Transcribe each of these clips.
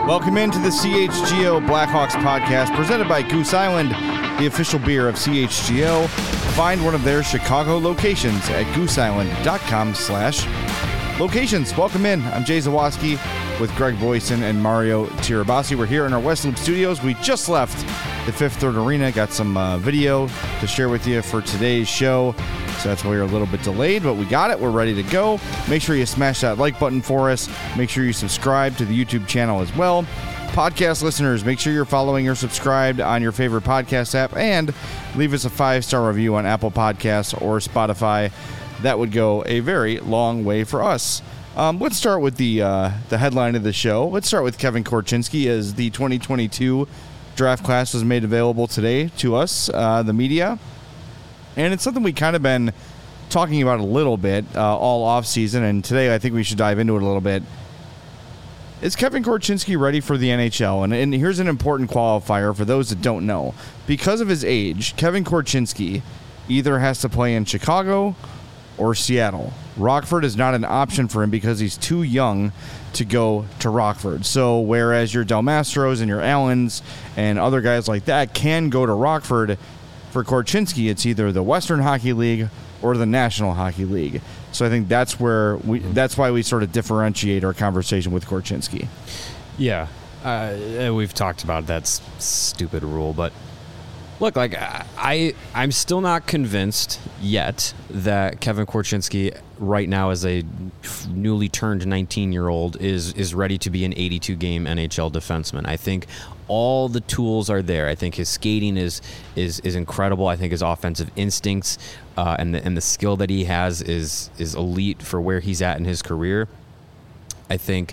Welcome into the CHGO Blackhawks podcast presented by Goose Island, the official beer of CHGO. Find one of their Chicago locations at gooseisland.com/locations. Welcome in. I'm Jay Zawoski with Greg Boyson and Mario Tirabassi. We're here in our West Loop studios. We just left the Fifth Third Arena. Got some video to share with you for today's show. So that's why we're a little bit delayed, but we got it. We're ready to go. Make sure you smash that like button for us. Make sure you subscribe to the YouTube channel as well. Podcast listeners, make sure you're following or subscribed on your favorite podcast app and leave us a 5-star review on Apple Podcasts or Spotify. That would go a very long way for us. Let's start with the headline of the show. Let's start with Kevin Korchinski, as the 2022 draft class was made available today to us, the media. And it's something we kind of been talking about a little bit all offseason, and today I think we should dive into it a little bit. Is Kevin Korchinski ready for the NHL? And here's an important qualifier for those that don't know. Because of his age, Kevin Korchinski either has to play in Chicago or Seattle. Rockford is not an option for him because he's too young to go to Rockford. So whereas your Del Mastros and your Allens and other guys like that can go to Rockford, for Korchinski, it's either the Western Hockey League or the National Hockey League. So I think that's why we sort of differentiate our conversation with Korchinski. Yeah, we've talked about that stupid rule, but look, like I'm still not convinced yet that Kevin Korchinski right now, as a newly turned 19-year-old, is ready to be an 82-game NHL defenseman. I think all the tools are there. I think his skating is incredible. I think his offensive instincts and the skill that he has is elite for where he's at in his career. I think,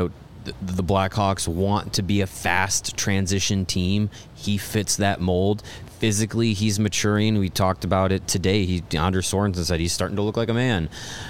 the Blackhawks want to be a fast transition team. He fits that mold. Physically, he's maturing. We talked about it today. Anders Sorensen said he's starting to look like a man.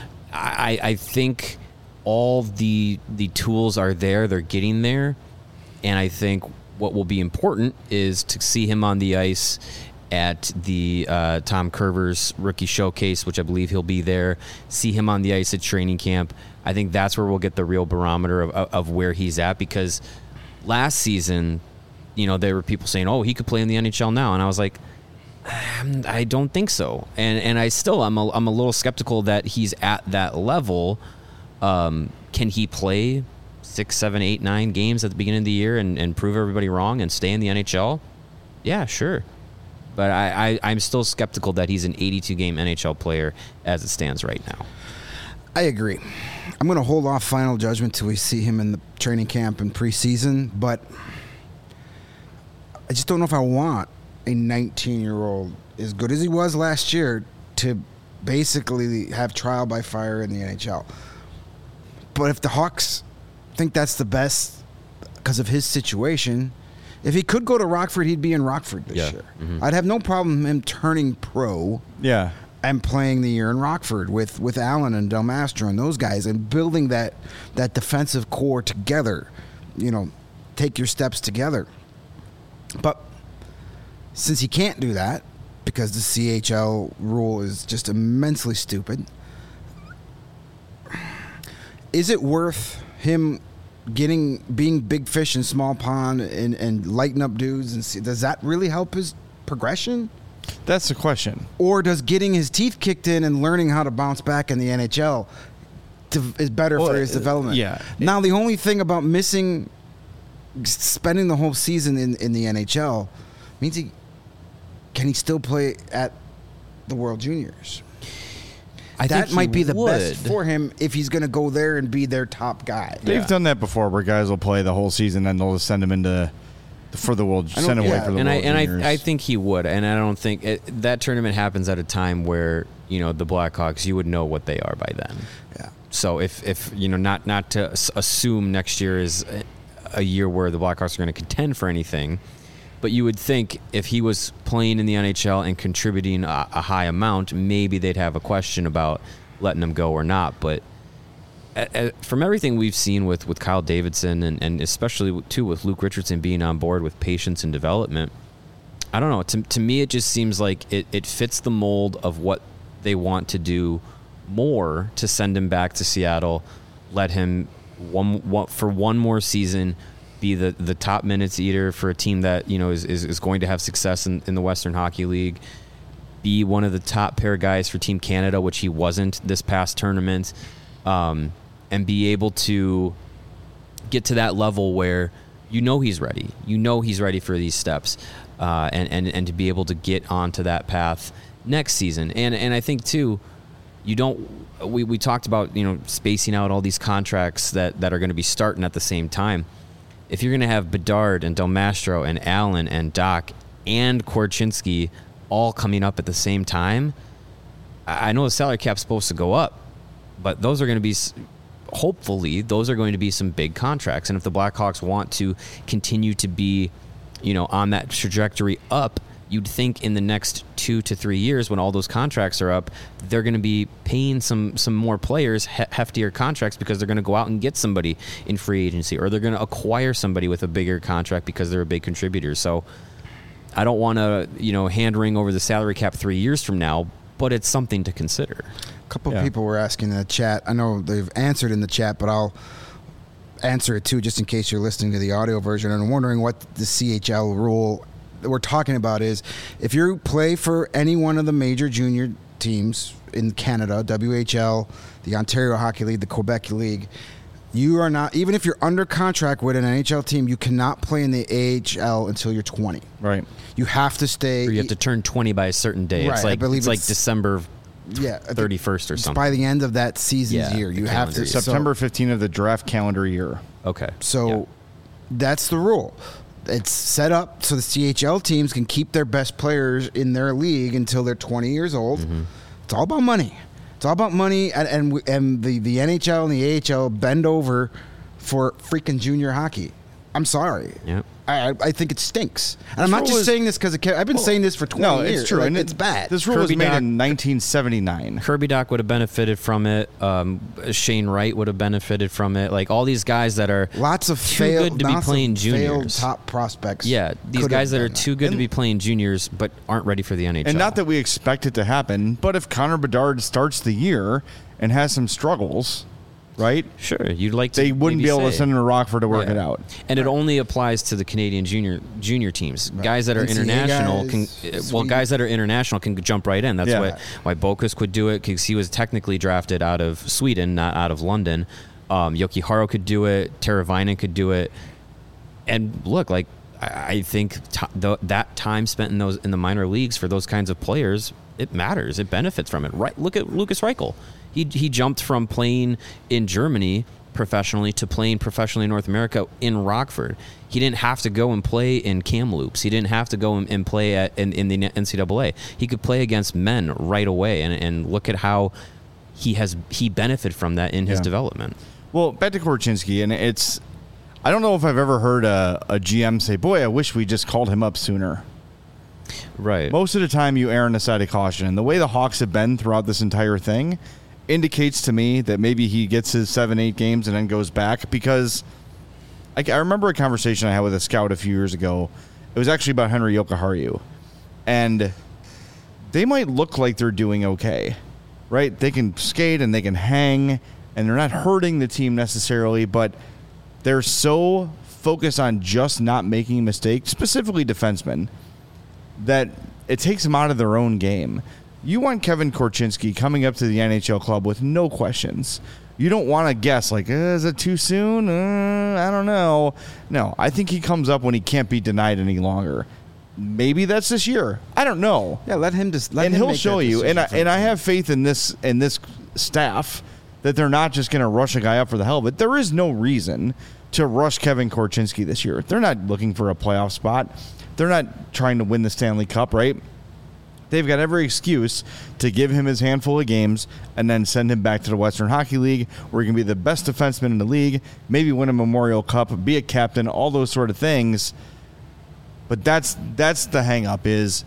I think all the tools are there. They're getting there. And I think what will be important is to see him on the ice at the Tom Curvers rookie showcase, which I believe he'll be there. See him on the ice at training camp. I think that's where we'll get the real barometer of where he's at, because last season, there were people saying, oh, he could play in the NHL now. And I was like, I don't think so. And I'm a little skeptical that he's at that level. Can he play 6, 7, 8, 9 games at the beginning of the year and prove everybody wrong and stay in the NHL? Yeah, sure. But I'm still skeptical that he's an 82-game NHL player as it stands right now. I agree. I'm going to hold off final judgment till we see him in the training camp and preseason, but I just don't know if I want a 19-year-old, as good as he was last year, to basically have trial by fire in the NHL. But if the Hawks think that's the best because of his situation, if he could go to Rockford, he'd be in Rockford this year. Mm-hmm. I'd have no problem him turning pro. Yeah. And playing the year in Rockford with Allen and Del Mastro and those guys, and building that defensive core together, take your steps together. But since he can't do that because the CHL rule is just immensely stupid, is it worth him being big fish in small pond and lighting up dudes? And does that really help his progression? That's the question. Or does getting his teeth kicked in and learning how to bounce back in the NHL is better for his development? Yeah. Now, the only thing about spending the whole season in the NHL means can he still play at the World Juniors? That might be the best for him if he's going to go there and be their top guy. They've done that before, where guys will play the whole season and they'll just send him for the World Juniors. I think he would, and I don't think that tournament happens at a time where the Blackhawks, you would know what they are by then. Yeah. So if not to assume next year is a year where the Blackhawks are going to contend for anything, but you would think if he was playing in the NHL and contributing a high amount, maybe they'd have a question about letting him go or not. But from everything we've seen with Kyle Davidson and especially too with Luke Richardson being on board with patience and development, I don't know. To me, it just seems like it fits the mold of what they want to do more to send him back to Seattle, let him for one more season be the top minutes eater for a team that is going to have success in the Western Hockey League, be one of the top pair guys for Team Canada, which he wasn't this past tournament, and be able to get to that level where he's ready. He's ready for these steps, and to be able to get onto that path next season. And I think too, we talked about spacing out all these contracts that are going to be starting at the same time. If you're going to have Bedard and Del Mastro and Allen and Doc and Korchinski all coming up at the same time, I know the salary cap's supposed to go up, but those are going to be, hopefully, those are going to be some big contracts. And if the Blackhawks want to continue to be, on that trajectory up, you'd think in the next 2 to 3 years, when all those contracts are up, they're going to be paying some more players heftier contracts because they're going to go out and get somebody in free agency, or they're going to acquire somebody with a bigger contract because they're a big contributor. So I don't want to, hand wring over the salary cap 3 years from now, but it's something to consider. A couple of people were asking in the chat. I know they've answered in the chat, but I'll answer it too, just in case you're listening to the audio version and wondering what the CHL rule that we're talking about is. If you play for any one of the major junior teams in Canada, WHL, the Ontario Hockey League, the Quebec League, you are not, even if you're under contract with an NHL team, you cannot play in the AHL until you're 20. Right. You have to stay. Or you have to turn 20 by a certain day. Right, It's like, I believe it's like it's- December Yeah, 31st or something. by the end of that season's year, you have to. September 15th of the draft calendar year. Okay. So that's the rule. It's set up so the CHL teams can keep their best players in their league until they're 20 years old. Mm-hmm. It's all about money. It's all about money, and the NHL and the AHL bend over for freaking junior hockey. I'm sorry. Yep. I think it stinks. And I'm not just saying this because I've been saying this for 20 years. It's true. Like, and it's bad. This rule was Kirby made Doc- in 1979. Kirby Doc would have benefited from it. Shane Wright would have benefited from it. Like all these guys that are Lots of too failed, good to be lots of playing failed juniors. top prospects. Yeah, these could guys have that are done too good to be playing juniors but aren't ready for the NHL. And not that we expect it to happen, but if Connor Bedard starts the year and has some struggles, right? Sure, you'd like to. They wouldn't maybe be able to say. send him to Rockford to work Yeah. it out. And it only applies to the Canadian junior teams. Guys that are NCAA international guys, guys that are international can jump right in. That's Yeah. why Bokus could do it, because he was technically drafted out of Sweden, not out of London. Yoki Haro could do it. Teravainen could do it. And look, like I think that time spent in the minor leagues for those kinds of players, it matters. It benefits from it. Right? Look at Lucas Reichel. He jumped from playing in Germany professionally to playing professionally in North America in Rockford. He didn't have to go and play in Kamloops. He didn't have to go and play in the NCAA. He could play against men right away, and look at how he benefited from that in his development. Well, back to Korchinski, and I don't know if I've ever heard a GM say, boy, I wish we just called him up sooner. Right. Most of the time you err on the side of caution. And the way the Hawks have been throughout this entire thing indicates to me that maybe he gets his 7-8 games and then goes back, because I remember a conversation I had with a scout a few years ago. It was actually about Henry Jokiharju. And they might look like they're doing okay, right? They can skate and they can hang, and they're not hurting the team necessarily, but they're so focused on just not making mistakes, specifically defensemen, that it takes them out of their own game. You want Kevin Korchinski coming up to the NHL club with no questions. You don't want to guess, like, is it too soon? I don't know. No, I think he comes up when he can't be denied any longer. Maybe that's this year. I don't know. Yeah, let him just. And he'll show you. And I have faith in this staff that they're not just going to rush a guy up for the hell of it. There is no reason to rush Kevin Korchinski this year. They're not looking for a playoff spot. They're not trying to win the Stanley Cup, right? They've got every excuse to give him his handful of games and then send him back to the Western Hockey League, where he can be the best defenseman in the league, maybe win a Memorial Cup, be a captain, all those sort of things. But that's the hang-up, is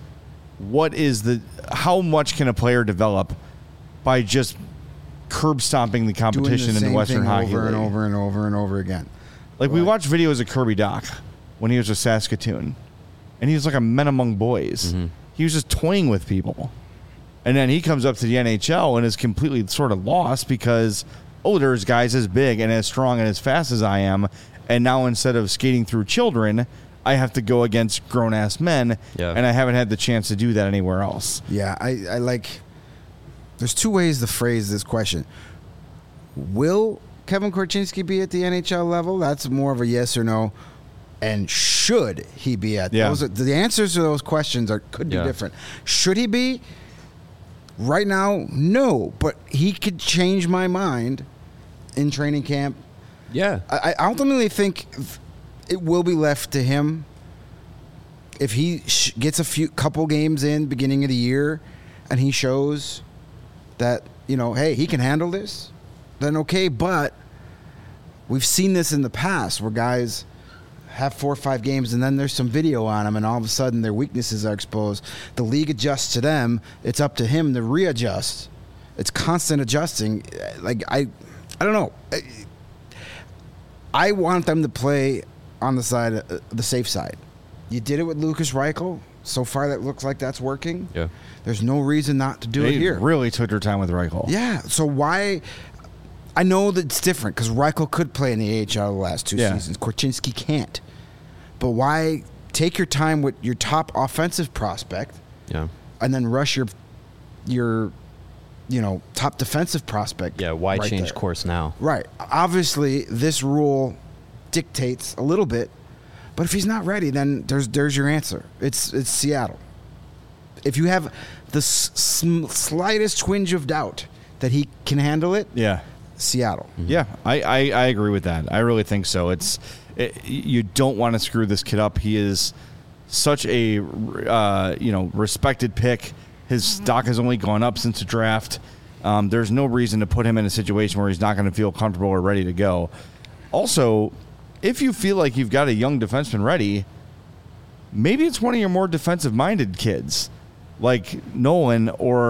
how much can a player develop by just curb stomping the competition in the Western Hockey League over and over and over and over again. Like, we watched videos of Kirby Doc when he was with Saskatoon, and he was like a men among boys. Mm-hmm. He was just toying with people. And then he comes up to the NHL and is completely sort of lost because, there's guys as big and as strong and as fast as I am, and now instead of skating through children, I have to go against grown-ass men, and I haven't had the chance to do that anywhere else. Yeah, I like... There's two ways to phrase this question. Will Kevin Korchinski be at the NHL level? That's more of a yes or no. And should he be at those? The answers to those questions could be different. Should he be? Right now, no. But he could change my mind in training camp. Yeah. I ultimately think it will be left to him. If he gets a couple games in beginning of the year and he shows that, hey, he can handle this, then okay. But we've seen this in the past where guys have 4 or 5 games and then there's some video on them and all of a sudden their weaknesses are exposed. The league adjusts to them. It's up to him to readjust. It's constant adjusting. Like, I don't know. I want them to play on the side, the safe side. You did it with Lucas Reichel. So far, that looks like that's working. Yeah. There's no reason not to do it here. They really took their time with Reichel. Yeah. So why? I know that it's different because Reichel could play in the AHL the last 2 seasons. Korchinski can't. But why take your time with your top offensive prospect and then rush your top defensive prospect? Yeah, why right change there? course now? Right. Obviously, this rule dictates a little bit, but if he's not ready, then there's your answer. It's Seattle. If you have the slightest twinge of doubt that he can handle it, Seattle. Mm-hmm. Yeah, I agree with that. I really think so. You don't want to screw this kid up. He is such a respected pick. His stock has only gone up since the draft. There's no reason to put him in a situation where he's not going to feel comfortable or ready to go. Also, if you feel like you've got a young defenseman ready, maybe it's one of your more defensive-minded kids, like Nolan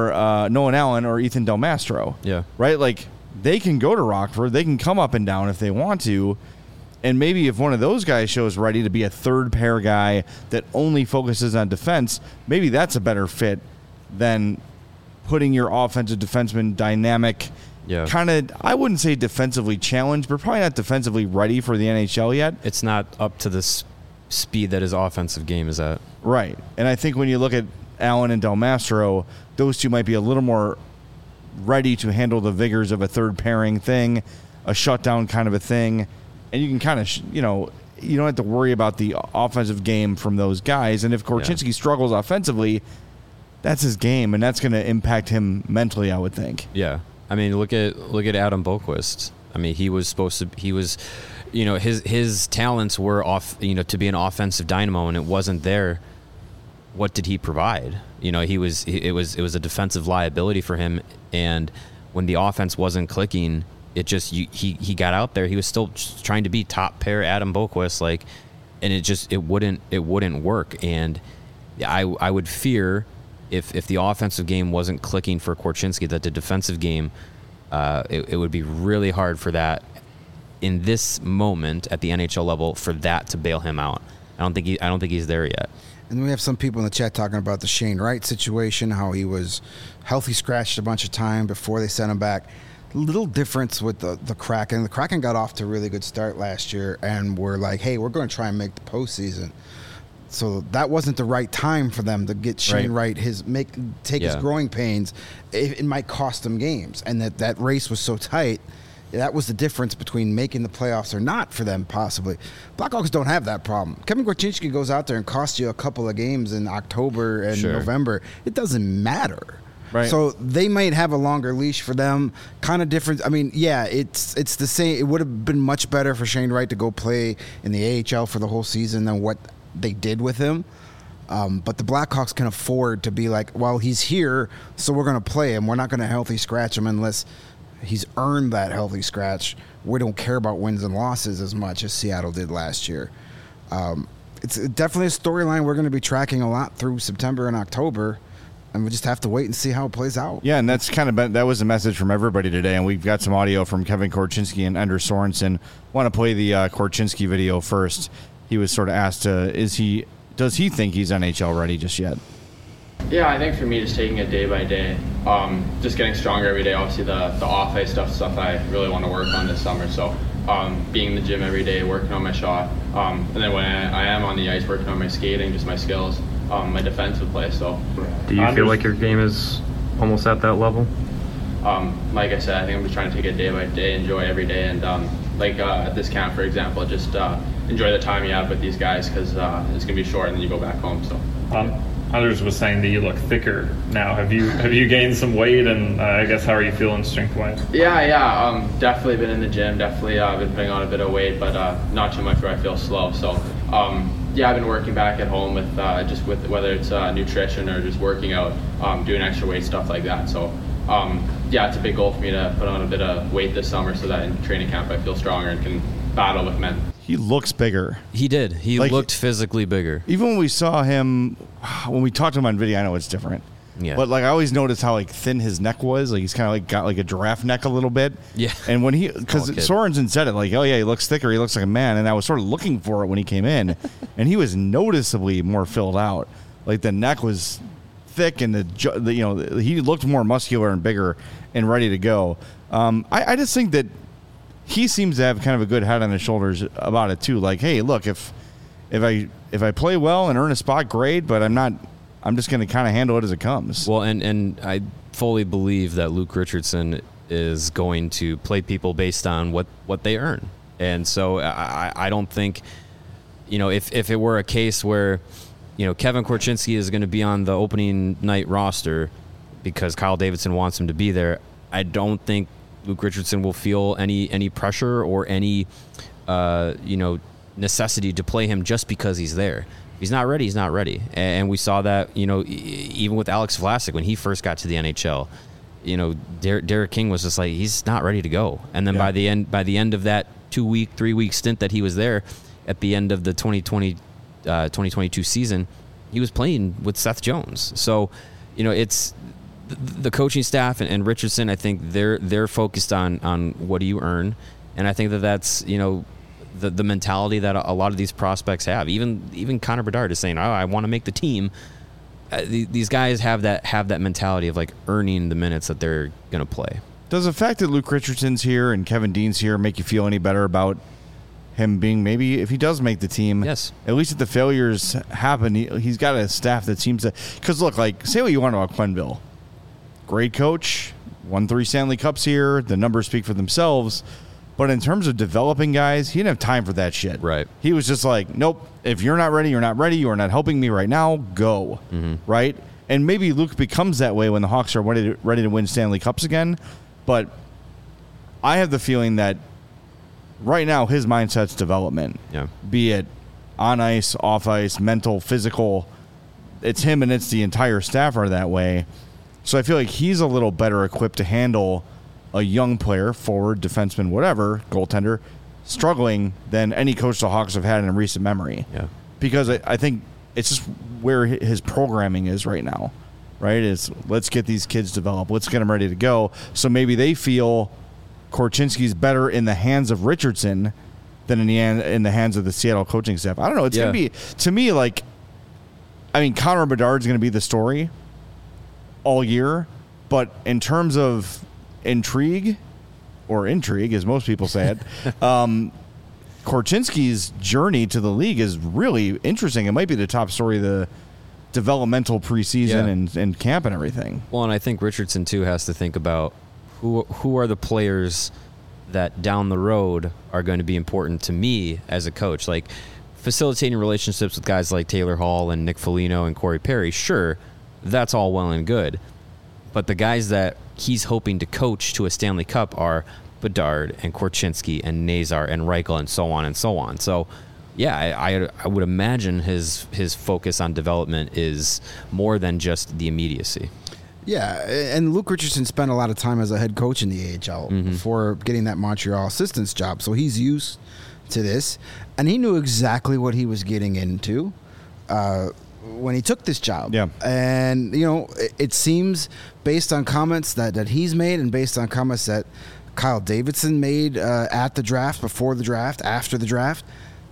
Allen or Ethan Del Mastro. Yeah. Right? Like, they can go to Rockford. They can come up and down if they want to. And maybe if one of those guys shows ready to be a third-pair guy that only focuses on defense, maybe that's a better fit than putting your offensive defenseman dynamic kind of, I wouldn't say defensively challenged, but probably not defensively ready for the NHL yet. It's not up to the speed that his offensive game is at. Right. And I think when you look at Allen and Del Mastro, those two might be a little more ready to handle the vigors of a third pairing thing, a shutdown kind of a thing. And you can kind of, you don't have to worry about the offensive game from those guys. And if Korchinski struggles offensively, that's his game, and that's going to impact him mentally, I would think. Yeah. I mean, look at Adam Boqvist. I mean, his talents were off, to be an offensive dynamo, and it wasn't there. What did he provide? It was a defensive liability for him, and when the offense wasn't clicking, it just he got out there. He was still trying to be top pair Adam Boqvist, and it wouldn't work. And I would fear if the offensive game wasn't clicking for Korchinski, that the defensive game, it would be really hard for that in this moment at the NHL level for that to bail him out. I don't think he's there yet. And we have some people in the chat talking about the Shane Wright situation, how he was healthy scratched a bunch of time before they sent him back. Little difference with the Kraken. The Kraken got off to a really good start last year and were like, hey, we're going to try and make the postseason. So that wasn't the right time for them to get Shane Wright his growing pains. It might cost them games, and that race was so tight. That was the difference between making the playoffs or not for them, possibly. Blackhawks don't have that problem. Kevin Korchinski goes out there and costs you a couple of games in October and November. It doesn't matter. Right. So they might have a longer leash for them. Kind of different. I mean, it's the same. It would have been much better for Shane Wright to go play in the AHL for the whole season than what they did with him. But the Blackhawks can afford to be like, well, he's here, so we're going to play him. We're not going to healthy scratch him unless he's earned that healthy scratch. We don't care about wins and losses as much as Seattle did last year. It's definitely a storyline we're going to be tracking a lot through September and October, and we just have to wait and see how it plays out. Yeah, and that's that was a message from everybody today, and we've got some audio from Kevin Korchinski and Anders Sorensen. Want to play the Korchinski video first. He was sort of asked, does he think he's NHL ready just yet? Yeah, I think for me, just taking it day by day, just getting stronger every day. Obviously, the off ice stuff I really want to work on this summer. So, being in the gym every day, working on my shot, and then when I am on the ice, working on my skating, just my skills, my defensive play. So, do you feel like your game is almost at that level? Like I said, I think I'm just trying to take it day by day, enjoy every day, and at this camp, for example, just enjoy the time you have with these guys because it's gonna be short, and then you go back home. So. Others was saying that you look thicker now. Have you gained some weight, and I guess how are you feeling strength-wise? Yeah. Definitely been in the gym. Definitely been putting on a bit of weight, but not too much where I feel slow. So yeah, I've been working back at home with with whether it's nutrition or just working out, doing extra weight stuff like that. So yeah, it's a big goal for me to put on a bit of weight this summer so that in training camp I feel stronger and can battle with men. He looks bigger. He did. He looked physically bigger. Even when we saw him, when we talked to him on video, I know it's different. Yeah. But like I always noticed how like thin his neck was. Like he's kind of like got like a giraffe neck a little bit. Yeah. And when because Sorensen said it like, oh yeah, he looks thicker. He looks like a man. And I was sort of looking for it when he came in, and he was noticeably more filled out. Like the neck was thick, and the he looked more muscular and bigger and ready to go. I just think that he seems to have kind of a good head on his shoulders about it too. Like, hey, look, if I play well and earn a spot, great. But I'm just going to kind of handle it as it comes. Well, and I fully believe that Luke Richardson is going to play people based on what they earn. And so I don't think, if it were a case where, Kevin Korchinski is going to be on the opening night roster because Kyle Davidson wants him to be there, I don't think Luke Richardson will feel any pressure or any, necessity to play him just because he's there. If he's not ready, he's not ready. And we saw that, even with Alex Vlasic when he first got to the NHL. Derek King was just like, he's not ready to go. And then by the end of that 3-week stint that he was there, at the end of the 2022 season, he was playing with Seth Jones. So, it's the coaching staff and Richardson. I think they're focused on what do you earn, and I think that's the mentality that a lot of these prospects have. Even Connor Bedard is saying, "Oh, I want to make the team." These guys have that mentality of like earning the minutes that they're going to play. Does the fact that Luke Richardson's here and Kevin Dean's here make you feel any better about him being, maybe if he does make the team? Yes. At least if the failures happen, he's got a staff that seems to. Because look, like say what you want about Quenneville. Great coach, won 3 Stanley Cups here. The numbers speak for themselves. But in terms of developing guys, he didn't have time for that shit. Right. He was just like, nope, if you're not ready, you're not ready. You are not helping me right now. Go. Mm-hmm. Right? And maybe Luke becomes that way when the Hawks are ready to win Stanley Cups again. But I have the feeling that right now his mindset's development. Yeah. Be it on ice, off ice, mental, physical. It's him and it's the entire staff are that way. So I feel like he's a little better equipped to handle a young player, forward, defenseman, whatever, goaltender, struggling than any coach the Hawks have had in recent memory. Yeah. Because I think it's just where his programming is right now, right? Is let's get these kids developed. Let's get them ready to go. So maybe they feel Korchinski's better in the hands of Richardson than in the hands of the Seattle coaching staff. I don't know. It's going to be, to me, like, I mean, Connor Bedard's going to be the story all year, but in terms of intrigue, as most people say it, Korchinski's journey to the league is really interesting. It might be the top story of the developmental preseason and camp and everything. Well, and I think Richardson too has to think about who are the players that down the road are going to be important to me as a coach. Like facilitating relationships with guys like Taylor Hall and Nick Foligno and Corey Perry, sure, that's all well and good. But the guys that he's hoping to coach to a Stanley Cup are Bedard and Korchinski and Nazar and Reichel and so on and so on. So, yeah, I would imagine his focus on development is more than just the immediacy. Yeah, and Luke Richardson spent a lot of time as a head coach in the AHL before getting that Montreal assistant's job. So he's used to this, and he knew exactly what he was getting into when he took this job. Yeah. And, it seems based on comments that he's made and based on comments that Kyle Davidson made at the draft, before the draft, after the draft,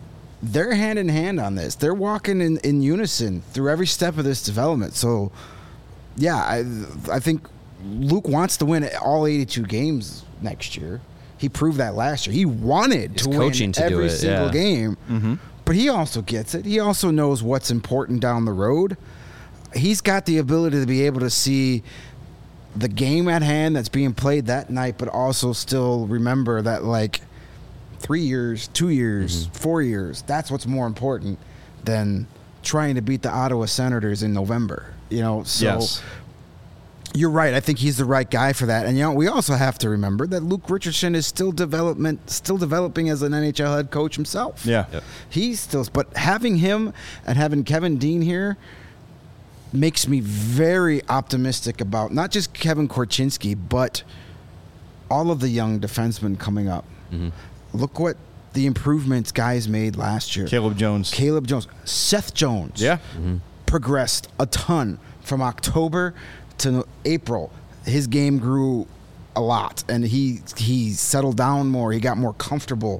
they're hand in hand on this. They're walking in unison through every step of this development. So I think Luke wants to win all 82 games next year. He proved that last year. He wanted to win every single game, but he also gets it. He also knows what's important down the road. He's got the ability to be able to see the game at hand that's being played that night, but also still remember that, like, 3 years, 2 years, 4 years, that's what's more important than trying to beat the Ottawa Senators in November. So Yes. You're right. I think he's the right guy for that. And we also have to remember that Luke Richardson is still developing as an NHL head coach himself. Yeah. Yep. He's still, but having him and having Kevin Dean here makes me very optimistic about not just Kevin Korchinski, but all of the young defensemen coming up. Look what the improvements guys made last year. Caleb Jones. Seth Jones. Yeah. Progressed a ton from October to April. His game grew a lot, and he settled down more. He got more comfortable.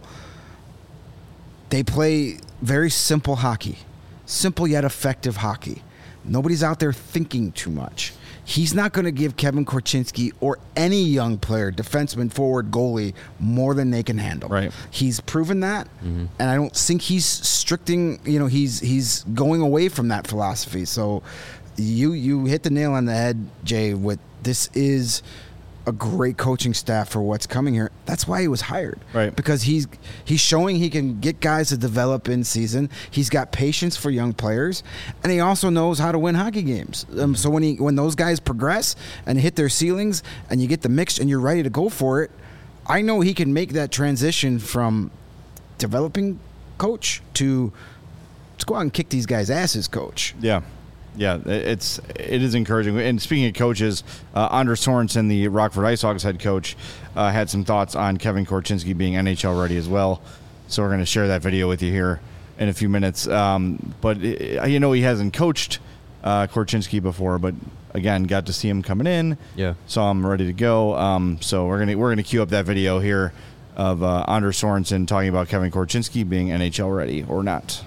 They play very simple hockey, simple yet effective hockey. Nobody's out there thinking too much. He's not going to give Kevin Korchinski or any young player, defenseman, forward, goalie, more than they can handle. Right. He's proven that, and I don't think he's he's going away from that philosophy. So you hit the nail on the head, Jay, with this is a great coaching staff for what's coming here. That's why he was hired. Right. Because he's showing he can get guys to develop in season. He's got patience for young players, and he also knows how to win hockey games. So when those guys progress and hit their ceilings and you get the mix and you're ready to go for it, I know he can make that transition from developing coach to let's go out and kick these guys' asses coach. Yeah. Yeah, it is encouraging. And speaking of coaches, Anders Sorensen, the Rockford Ice Hogs head coach, had some thoughts on Kevin Korchinski being NHL ready as well. So we're going to share that video with you here in a few minutes. But he hasn't coached Korchinski before, but again, got to see him coming in. Yeah, saw him ready to go. So we're gonna cue up that video here of Anders Sorensen talking about Kevin Korchinski being NHL ready or not.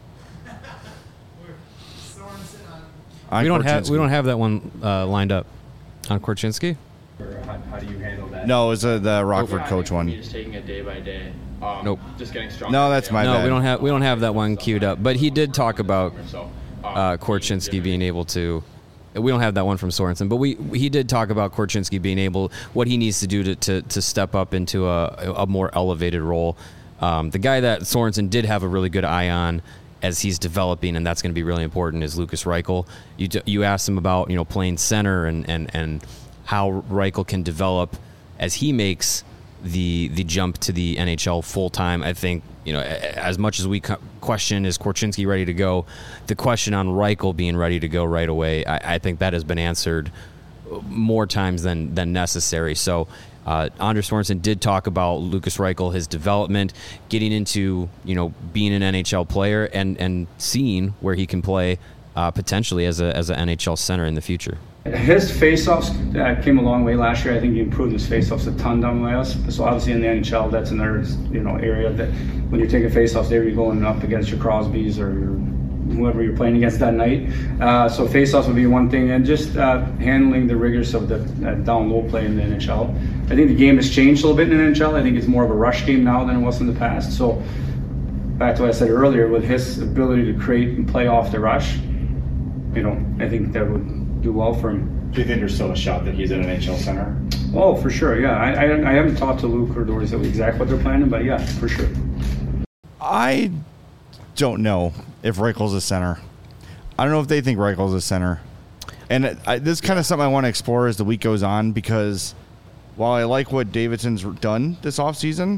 We don't have that one lined up on Korchinski. How do you handle that? No, it's the Rockford coach one. Just taking it day by day. Nope. Just getting stronger. No, that's my bad. We don't have that one queued up. But he did talk about So, Korchinski being able to. We don't have that one from Sorensen, but he did talk about Korchinski being able, what he needs to do to step up into a more elevated role. The guy that Sorensen did have a really good eye on as he's developing, and that's going to be really important, is Lukas Reichel. You asked him about playing center and how Reichel can develop as he makes the jump to the NHL full time. I think as much as we question is Korchinski ready to go, the question on Reichel being ready to go right away, I think that has been answered more times than necessary. So Anders Sorensen did talk about Lukas Reichel, his development, getting into being an NHL player and seeing where he can play potentially as an NHL center in the future. His faceoffs came a long way last year. I think he improved his faceoffs a ton down by us. So obviously in the NHL, that's another area that when you're taking faceoffs there, you're going up against your Crosbys or whoever you're playing against that night. So faceoffs would be one thing, and just handling the rigors of the down low play in the NHL. I think the game has changed a little bit in the NHL. I think it's more of a rush game now than it was in the past. So back to what I said earlier, with his ability to create and play off the rush, I think that would do well for him. Do you think there's still a shot that he's an NHL center? Oh, for sure, yeah. I haven't talked to Luke or Doris exactly what they're planning, but yeah, for sure. I don't know if Reichel's a center. I don't know if they think Reichel's a center. And this is kind of something I want to explore as the week goes on, because while I like what Davidson's done this offseason,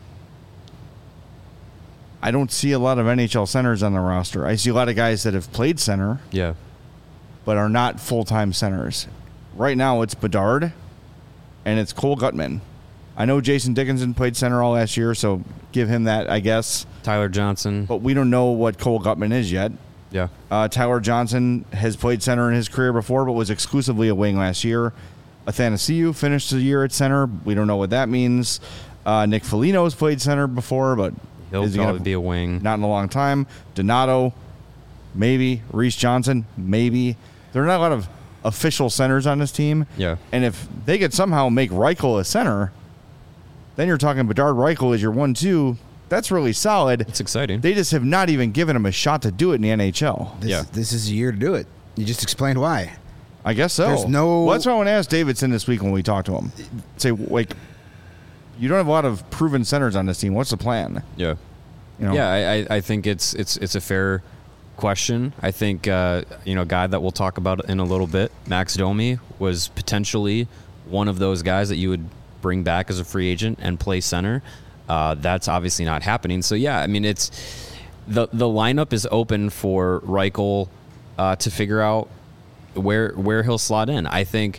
I don't see a lot of NHL centers on the roster. I see a lot of guys that have played center, but are not full-time centers. Right now, it's Bedard and it's Cole Guttman. I know Jason Dickinson played center all last year, so give him that, I guess. Tyler Johnson. But we don't know what Cole Guttman is yet. Yeah. Tyler Johnson has played center in his career before, but was exclusively a wing last year. Athanasiou finished the year at center. We don't know what that means. Nick Foligno's played center before, but he'll probably be a wing. Not in a long time. Donato, maybe. Reese Johnson, maybe. There are not a lot of official centers on this team. Yeah. And if they could somehow make Reichel a center, then you're talking Bedard Reichel as your 1-2. That's really solid. It's exciting. They just have not even given him a shot to do it in the NHL. This is a year to do it. You just explained why. I guess so. There's no... Well, that's why I want to ask Davidson this week when we talk to him. Say, like, you don't have a lot of proven centers on this team. What's the plan? Yeah. You know? Yeah, I think it's a fair question. I think a guy that we'll talk about in a little bit, Max Domi, was potentially one of those guys that you would bring back as a free agent and play center. That's obviously not happening. So yeah, I mean, it's the lineup is open for Reichel to figure out where he'll slot in. I think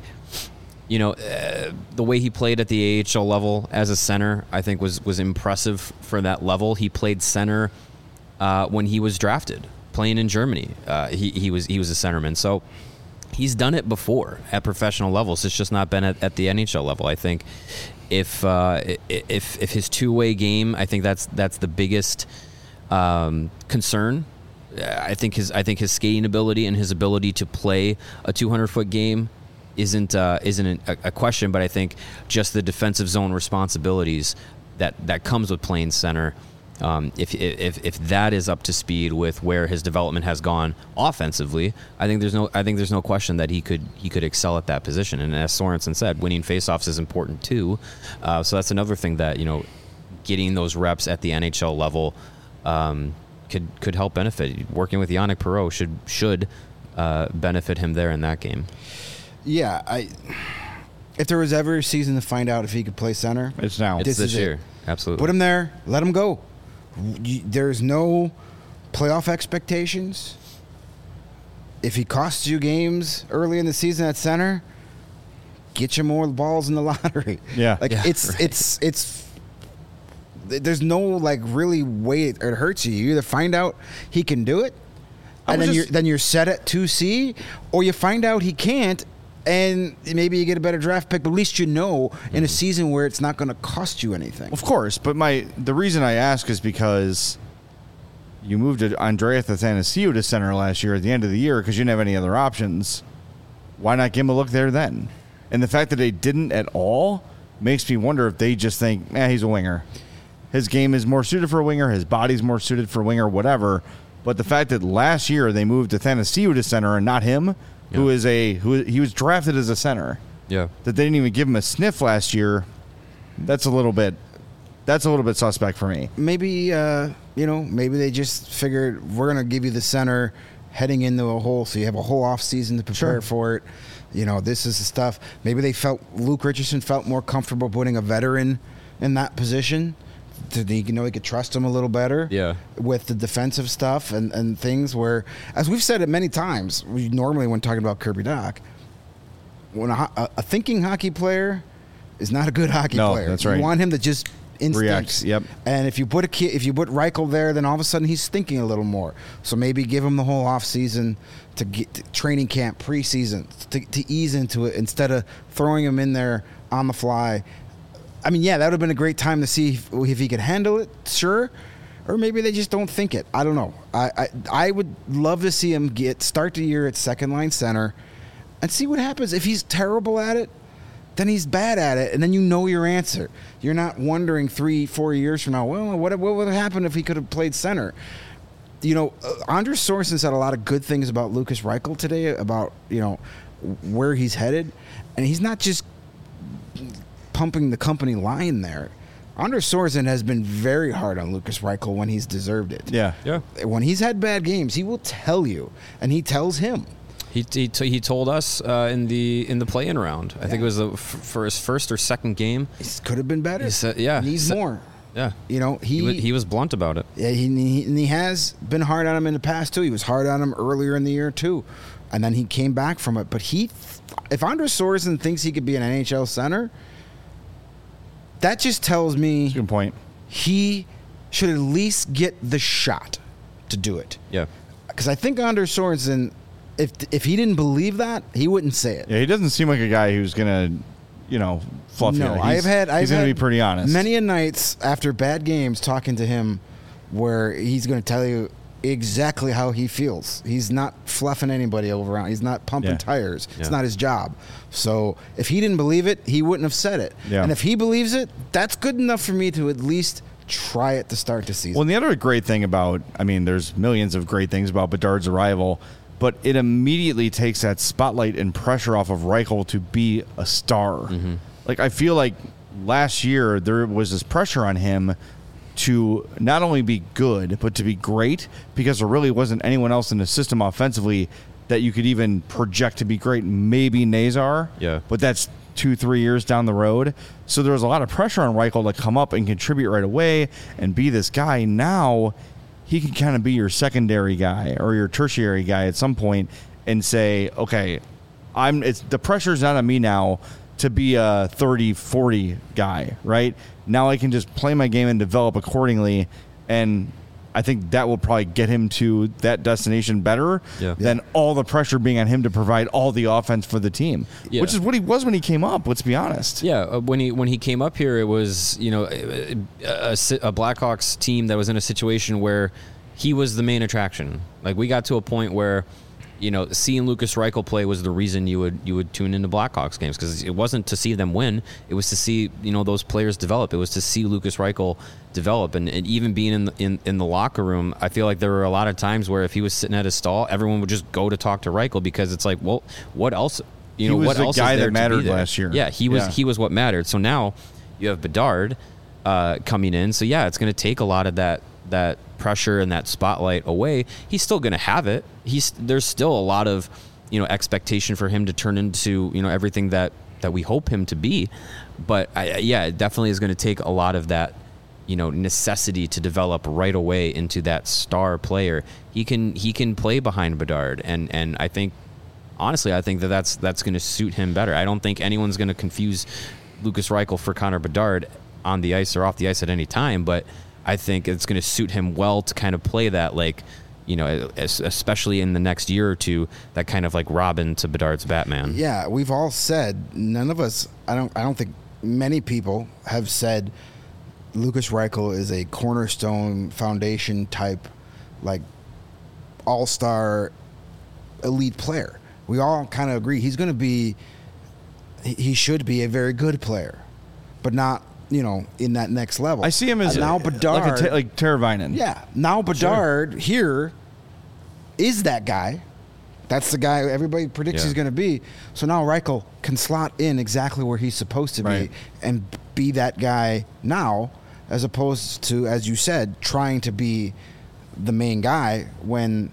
the way he played at the AHL level as a center, I think was impressive for that level. He played center when he was drafted, playing in Germany. He was a centerman. So he's done it before at professional levels. It's just not been at the NHL level. I think if his two-way game, I think that's the biggest concern. I think his skating ability and his ability to play a 200-foot game isn't a question, but I think just the defensive zone responsibilities that comes with playing center. If that is up to speed with where his development has gone offensively, I think there's no question that he could excel at that position. And as Sorensen said, winning faceoffs is important too. So that's another thing that getting those reps at the NHL level could help benefit. Working with Yannick Perreault should benefit him there in that game. Yeah, if there was ever a season to find out if he could play center, it's now. It's this year. Absolutely. Put him there. Let him go. There's no playoff expectations. If he costs you games early in the season at center, get you more balls in the lottery. Yeah. It's there's no really way it hurts you. You either find out he can do it, and then you're set at 2C, or you find out he can't, and maybe you get a better draft pick, but at least in a season where it's not going to cost you anything. Of course, but the reason I ask is because you moved Andreas Athanasiou to center last year at the end of the year because you didn't have any other options. Why not give him a look there then? And the fact that they didn't at all makes me wonder if they just think, he's a winger. His game is more suited for a winger. His body's more suited for a winger, whatever. But the fact that last year they moved Athanasiou to center and not him, who he was drafted as a center. Yeah. That they didn't even give him a sniff last year. That's a little bit suspect for me. Maybe maybe they just figured we're going to give you the center heading into a hole, so you have a whole off season to prepare for it. This is the stuff. Maybe Luke Richardson felt more comfortable putting a veteran in that position. He could trust him a little better with the defensive stuff and things where, as we've said it many times, we normally when talking about Kirby Dach, when a thinking hockey player is not a good hockey player. That's right. You want him to just react. Yep. And if you put Reichel there, then all of a sudden he's thinking a little more. So maybe give him the whole off season to get to training camp, preseason to ease into it instead of throwing him in there on the fly. I mean, that would have been a great time to see if he could handle it, sure. Or maybe they just don't think it. I don't know. I would love to see him start the year at second line center and see what happens. If he's terrible at it, then he's bad at it, and then your answer. You're not wondering 3-4 years from now, well, what would have happened if he could have played center? Anders Sorensen said a lot of good things about Lukas Reichel today, about, where he's headed. And he's not just pumping the company line there. Anders Sorensen has been very hard on Lukas Reichel when he's deserved it. Yeah. When he's had bad games, he will tell you, and he tells him. He told us in the play-in round. I think it was for his first or second game. He could have been better. He said, needs more. Yeah, he was blunt about it. Yeah, he has been hard on him in the past too. He was hard on him earlier in the year too, and then he came back from it. But if Anders Sorensen thinks he could be an NHL center, that just tells me that's a good point. He should at least get the shot to do it. Yeah, because I think Anders Sorensen, if he didn't believe that, he wouldn't say it. Yeah, he doesn't seem like a guy who's gonna, fluff it. No, I've had he's gonna be pretty honest. Many a nights after bad games talking to him, where he's going to tell you, exactly how he feels. He's not fluffing anybody over around. He's not pumping tires. It's not his job. So if he didn't believe it, he wouldn't have said it. Yeah. And if he believes it, that's good enough for me to at least try it to start the season. Well, and the other great thing about, I mean, there's millions of great things about Bedard's arrival, but it immediately takes that spotlight and pressure off of Reichel to be a star. Mm-hmm. Like, I feel like last year there was this pressure on him to not only be good, but to be great, because there really wasn't anyone else in the system offensively that you could even project to be great. Maybe Nazar, but that's 2-3 years down the road. So there was a lot of pressure on Reichel to come up and contribute right away and be this guy. Now he can kind of be your secondary guy or your tertiary guy at some point and say, okay, the pressure's not on me now to be a 30-40 guy, right? Now I can just play my game and develop accordingly, and I think that will probably get him to that destination better than all the pressure being on him to provide all the offense for the team, which is what he was when he came up. Let's be honest. Yeah, when he came up here, it was a Blackhawks team that was in a situation where he was the main attraction. Like, we got to a point where seeing Lukas Reichel play was the reason you would tune into Blackhawks games, because it wasn't to see them win. It was to see those players develop. It was to see Lukas Reichel develop, and even being in the locker room, I feel like there were a lot of times where if he was sitting at his stall, everyone would just go to talk to Reichel, because it's like, well, what else? He was what the else guy is there that mattered to be there? last year. Yeah, he was what mattered. So now you have Bedard coming in. So yeah, it's going to take a lot of that pressure and that spotlight away. He's still going to have it. There's still a lot of expectation for him to turn into everything that we hope him to be. But it definitely is going to take a lot of that necessity to develop right away into that star player. He can play behind Bedard, and I think honestly that's going to suit him better. I don't think anyone's going to confuse Lukas Reichel for Connor Bedard on the ice or off the ice at any time, but I think it's going to suit him well to kind of play that, like, especially in the next year or two, that kind of like Robin to Bedard's Batman. Yeah, we've all said, none of us, I don't think many people have said Lukas Reichel is a cornerstone foundation type, like, all-star elite player. We all kind of agree he should be a very good player, but not in that next level. I see him as now Bedard, like Teravainen. Yeah, now Bedard here is that guy. That's the guy everybody predicts he's going to be. So now Reichel can slot in exactly where he's supposed to be and be that guy now, as opposed to, as you said, trying to be the main guy when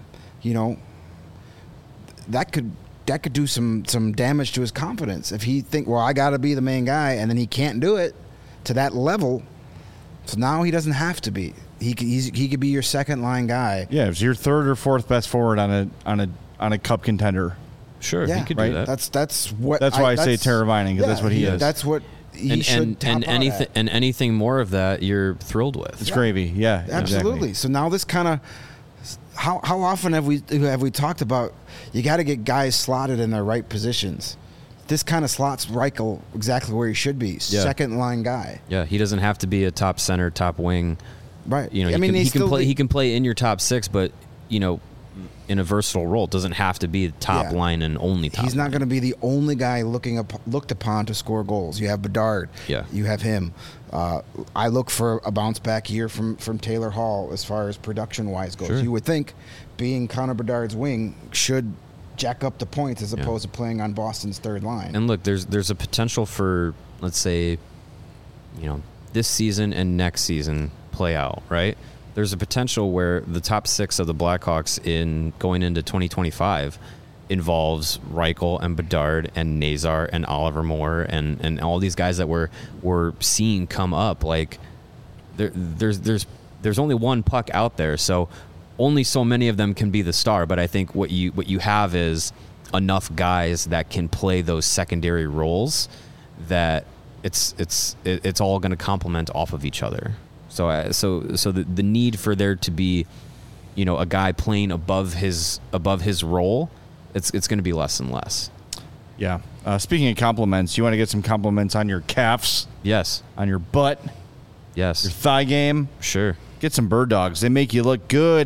that could do some damage to his confidence. If he think, well, I got to be the main guy, and then he can't do it to that level, so now he doesn't have to be. He could be your second line guy. Yeah, it's your third or fourth best forward on a cup contender. Sure, he could do that. That's why I say Teravainen, because that's what he is. That's what he should top out at. And anything more of that, you're thrilled with. It's gravy. Yeah, absolutely. Exactly. So now this kind of, how often have we talked about you got to get guys slotted in their right positions? This kind of slots Reichel exactly where he should be, second line guy. Yeah, he doesn't have to be a top center, top wing. Right. He can play in your top six, but in a versatile role. It doesn't have to be top line and only top. He's not going to be the only guy looked upon to score goals. You have Bedard. Yeah. You have him. I look for a bounce back year from Taylor Hall as far as production wise goes. Sure. You would think being Connor Bedard's wing should jack up the points as opposed to playing on Boston's third line. And look, there's a potential for, let's say, this season and next season play out, right? There's a potential where the top six of the Blackhawks in going into 2025 involves Reichel and Bedard and Nazar and Oliver Moore and all these guys that we're seeing come up. Like there's only one puck out there, so only so many of them can be the star. But I think what you have is enough guys that can play those secondary roles that it's all going to complement off of each other. So the need for there to be, a guy playing above his role, it's going to be less and less. Yeah. Speaking of compliments, you want to get some compliments on your calves? Yes. On your butt? Yes. Your thigh game? Sure. Get some Bird Dogs. They make you look good.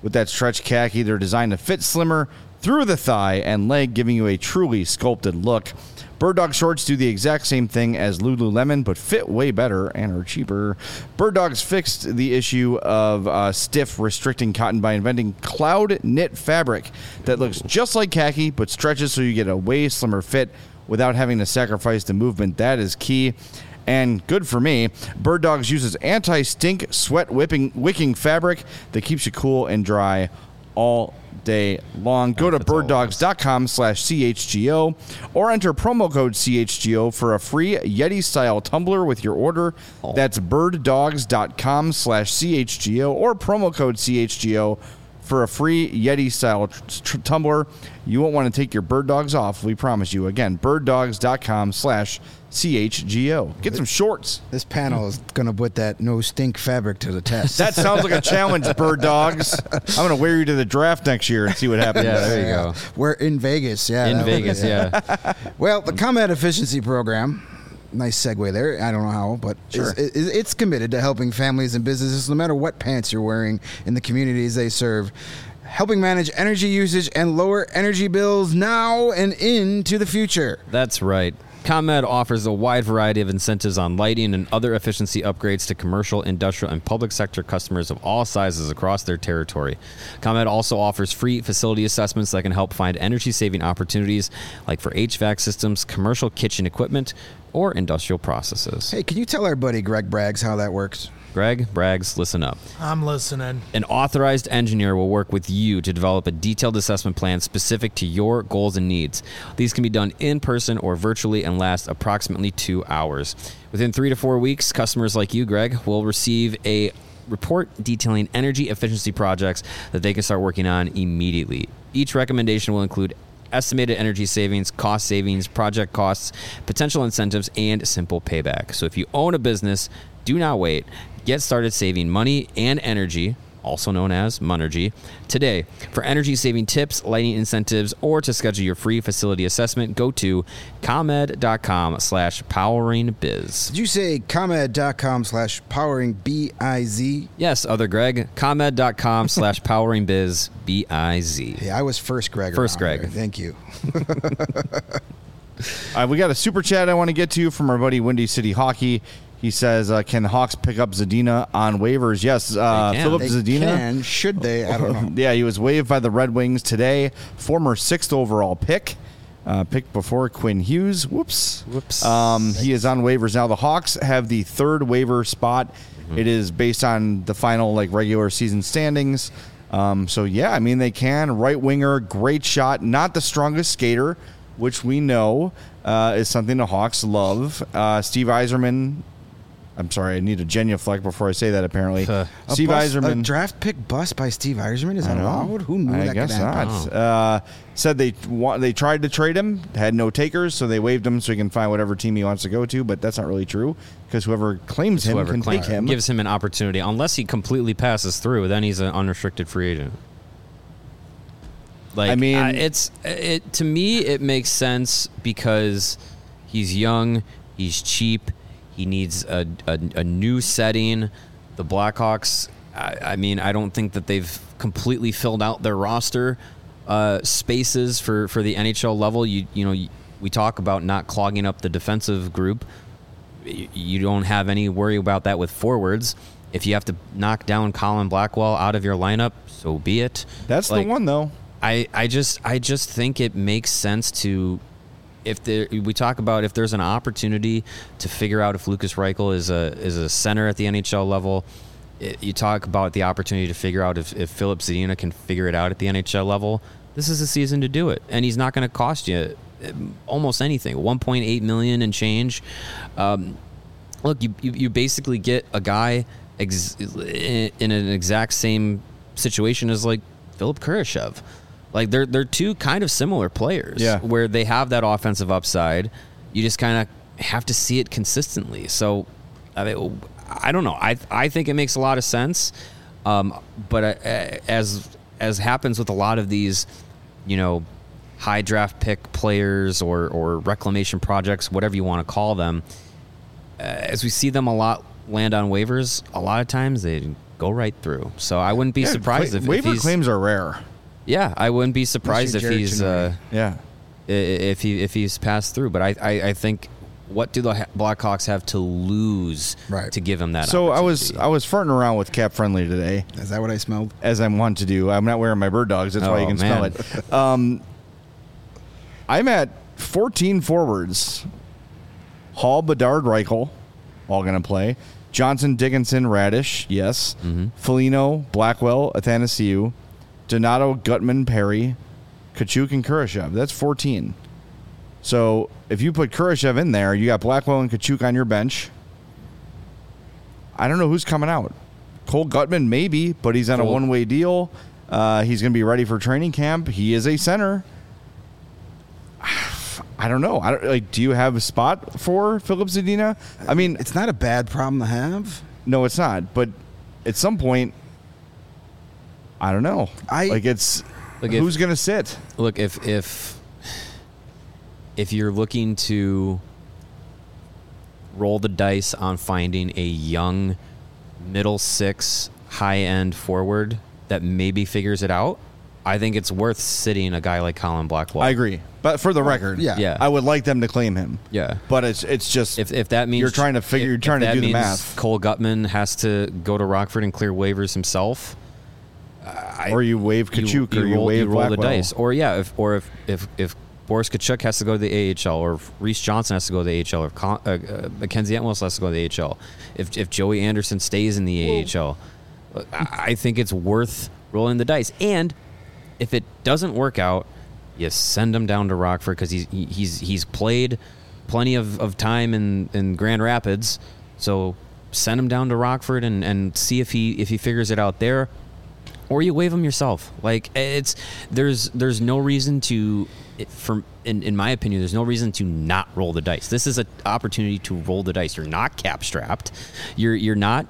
with that stretch khaki. They're designed to fit slimmer through the thigh and leg, giving you a truly sculpted look. Bird Dog shorts do the exact same thing as Lululemon, but fit way better and are cheaper. Bird Dog's fixed the issue of stiff, restricting cotton by inventing cloud knit fabric that looks just like khaki, but stretches so you get a way slimmer fit without having to sacrifice the movement. That is key. And good for me, Bird Dogs uses anti-stink, sweat wicking fabric that keeps you cool and dry all day long. Go to birddogs.com/CHGO or enter promo code CHGO for a free Yeti-style tumbler with your order. That's birddogs.com/CHGO or promo code CHGO for a free Yeti-style tumbler. You won't want to take your Bird Dogs off, we promise you. Again, birddogs.com/CHGO. Get some shorts. This panel is going to put that no stink fabric to the test. That sounds like a challenge, Bird Dogs. I'm going to wear you to the draft next year and see what happens. Yeah, there you go. We're in Vegas. Yeah, In Vegas, yeah. Well, the ComEd Efficiency Program, nice segue there. I don't know how, but Sure. it's committed to helping families and businesses, no matter what pants you're wearing, in the communities they serve, helping manage energy usage and lower energy bills now and into the future. That's right. ComEd offers a wide variety of incentives on lighting and other efficiency upgrades to commercial, industrial, and public sector customers of all sizes across their territory. ComEd also offers free facility assessments that can help find energy-saving opportunities, like for HVAC systems, commercial kitchen equipment, or industrial processes. Hey, can you tell our buddy Greg Braggs how that works? Greg Braggs, listen up. I'm listening. An authorized engineer will work with you to develop a detailed assessment plan specific to your goals and needs. These can be done in person or virtually and last approximately 2 hours. Within 3 to 4 weeks, customers like you, Greg, will receive a report detailing energy efficiency projects that they can start working on immediately. Each recommendation will include estimated energy savings, cost savings, project costs, potential incentives, and simple payback. So if you own a business, do not wait. Get started saving money and energy, also known as Monergy, today. For energy-saving tips, lighting incentives, or to schedule your free facility assessment, go to ComEd.com/poweringbiz. Did you say ComEd.com/poweringbiz? Yes, other Greg. ComEd.com/poweringbiz, B-I-Z. Hey, I was first Greg. First around Greg. here. Thank you. We got a super chat I want to get to from our buddy Windy City Hockey. He says, can the Hawks pick up Zadina on waivers? Yes, Philip They Zadina. can. Should they? I don't know. Yeah, he was waived by the Red Wings today. Former 6th overall pick. Picked before Quinn Hughes. Whoops. He is on waivers now. The Hawks have the 3rd waiver spot. Mm-hmm. It is based on the final regular season standings. So, yeah, I mean, they can. Right winger, great shot. Not the strongest skater, which we know is something the Hawks love. Steve Yzerman. I'm sorry, I need a genuflect before I say that, apparently. Steve Yzerman. A draft pick bust by Steve Yzerman? Is that allowed? Who knew that guess could happen? not. Said they tried to trade him, had no takers, so they waived him so he can find whatever team he wants to go to, but that's not really true because whoever claims him can take him. Gives him an opportunity. Unless he completely passes through, then he's an unrestricted free agent. I mean, to me, it makes sense because he's young, he's cheap, he needs a new setting. The Blackhawks, I mean, I don't think that they've completely filled out their roster spaces for the NHL level. We talk about not clogging up the defensive group. You don't have any worry about that with forwards. If you have to knock down Colin Blackwell out of your lineup, so be it. That's the one, though. I just think it makes sense to, we talk about if there's an opportunity to figure out if Lucas Reichel is a center at the NHL level. You talk about the opportunity to figure out if Philip Zadina can figure it out at the NHL level. This is the season to do it, and he's not going to cost you almost anything. $1.8 million and change. Look, you basically get a guy in an exact same situation as Philip Kurashev. They're two kind of similar players, where they have that offensive upside. You just kind of have to see it consistently. So, I don't know. I think it makes a lot of sense. But as happens with a lot of these, high draft pick players or reclamation projects, whatever you want to call them, as we see them a lot land on waivers, a lot of times they go right through. So I wouldn't be surprised if waiver he's, claims are rare. Yeah, I wouldn't be surprised if Unless he's you're Jared if he's passed through. But I think, what do the Blackhawks have to lose to give him that? So I opportunity? was farting around with Cap Friendly today, Is that what I smelled? as I want to do. I'm not wearing my bird dogs. That's why you can smell it. I'm at 14 forwards. Hall, Bedard, Reichel, all going to play. Johnson, Dickinson, Radish, yes. Foligno, Blackwell, Athanasiou, Donato, Gutman, Perry, Kachuk, and Kurashev. That's 14. So if you put Kurashev in there, you got Blackwell and Kachuk on your bench. I don't know who's coming out. Cole Gutman, maybe, but he's on a one-way deal. He's going to be ready for training camp. He is a center. I don't know. Do you have a spot for Philip Zadina? I mean, It's not a bad problem to have. no, it's not. But at some point, I don't know. Who's going to sit? Look, if you're looking to roll the dice on finding a young middle six high-end forward that maybe figures it out, I think it's worth sitting a guy like Colin Blackwell. I agree. But for the record, Yeah. I would like them to claim him. Yeah. But it's just If that means you're trying to figure, you're trying to that do the means math, Cole Gutman has to go to Rockford and clear waivers himself, or you wave Kachuk, or you wave roll the Blackwell. dice, or if Boris Kachuk has to go to the AHL, or if Reese Johnson has to go to the AHL, or Mackenzie Entwistle has to go to the AHL, if Joey Anderson stays in the AHL, I think it's worth rolling the dice. And if it doesn't work out, you send him down to Rockford, because he's played plenty of time in Grand Rapids, so send him down to Rockford and see if he figures it out there. Or you waive them yourself. Like, there's no reason to, in my opinion, there's no reason to not roll the dice. This is an opportunity to roll the dice. You're not cap strapped. You're not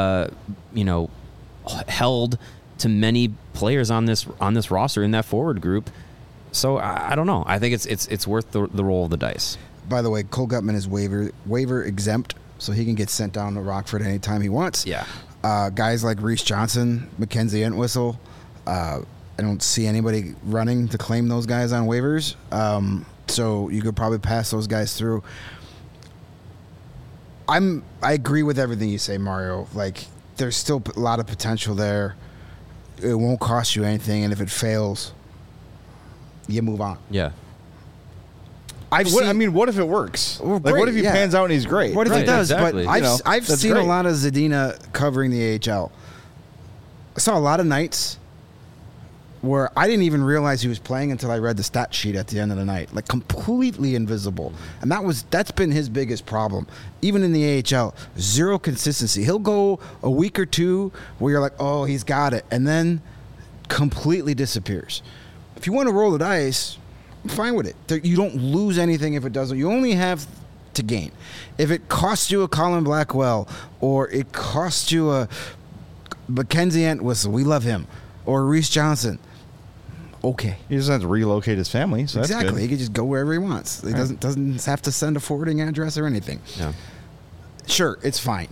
held to many players on this roster in that forward group. So I don't know. I think it's worth the roll of the dice. By the way, Cole Gutman is waiver exempt, so he can get sent down to Rockford anytime he wants. Yeah. Guys like Reese Johnson, Mackenzie Entwistle, I don't see anybody running to claim those guys on waivers. So you could probably pass those guys through. I agree with everything you say, Mario. Like, there's still a lot of potential there. It won't cost you anything, and if it fails, you move on. Yeah. What if it works? Well, Like, what if he great, yeah. pans out and he's great? What if Right, it does? exactly. But I've that's seen great. a lot of Zadina covering the AHL. I saw a lot of nights where I didn't even realize he was playing until I read the stat sheet at the end of the night. Like, completely invisible. And that's been his biggest problem. Even in the AHL, zero consistency. He'll go a week or two where you're like, oh, he's got it, and then completely disappears. If you want to roll the dice, I'm fine with it. You don't lose anything if it doesn't. You only have to gain. If it costs you a Colin Blackwell, or it costs you a Mackenzie Entwistle, we love him, or Reese Johnson, okay. He doesn't have to relocate his family, so that's Exactly. good. He can just go wherever he wants. He doesn't have to send a forwarding address or anything. Yeah. Sure, it's fine.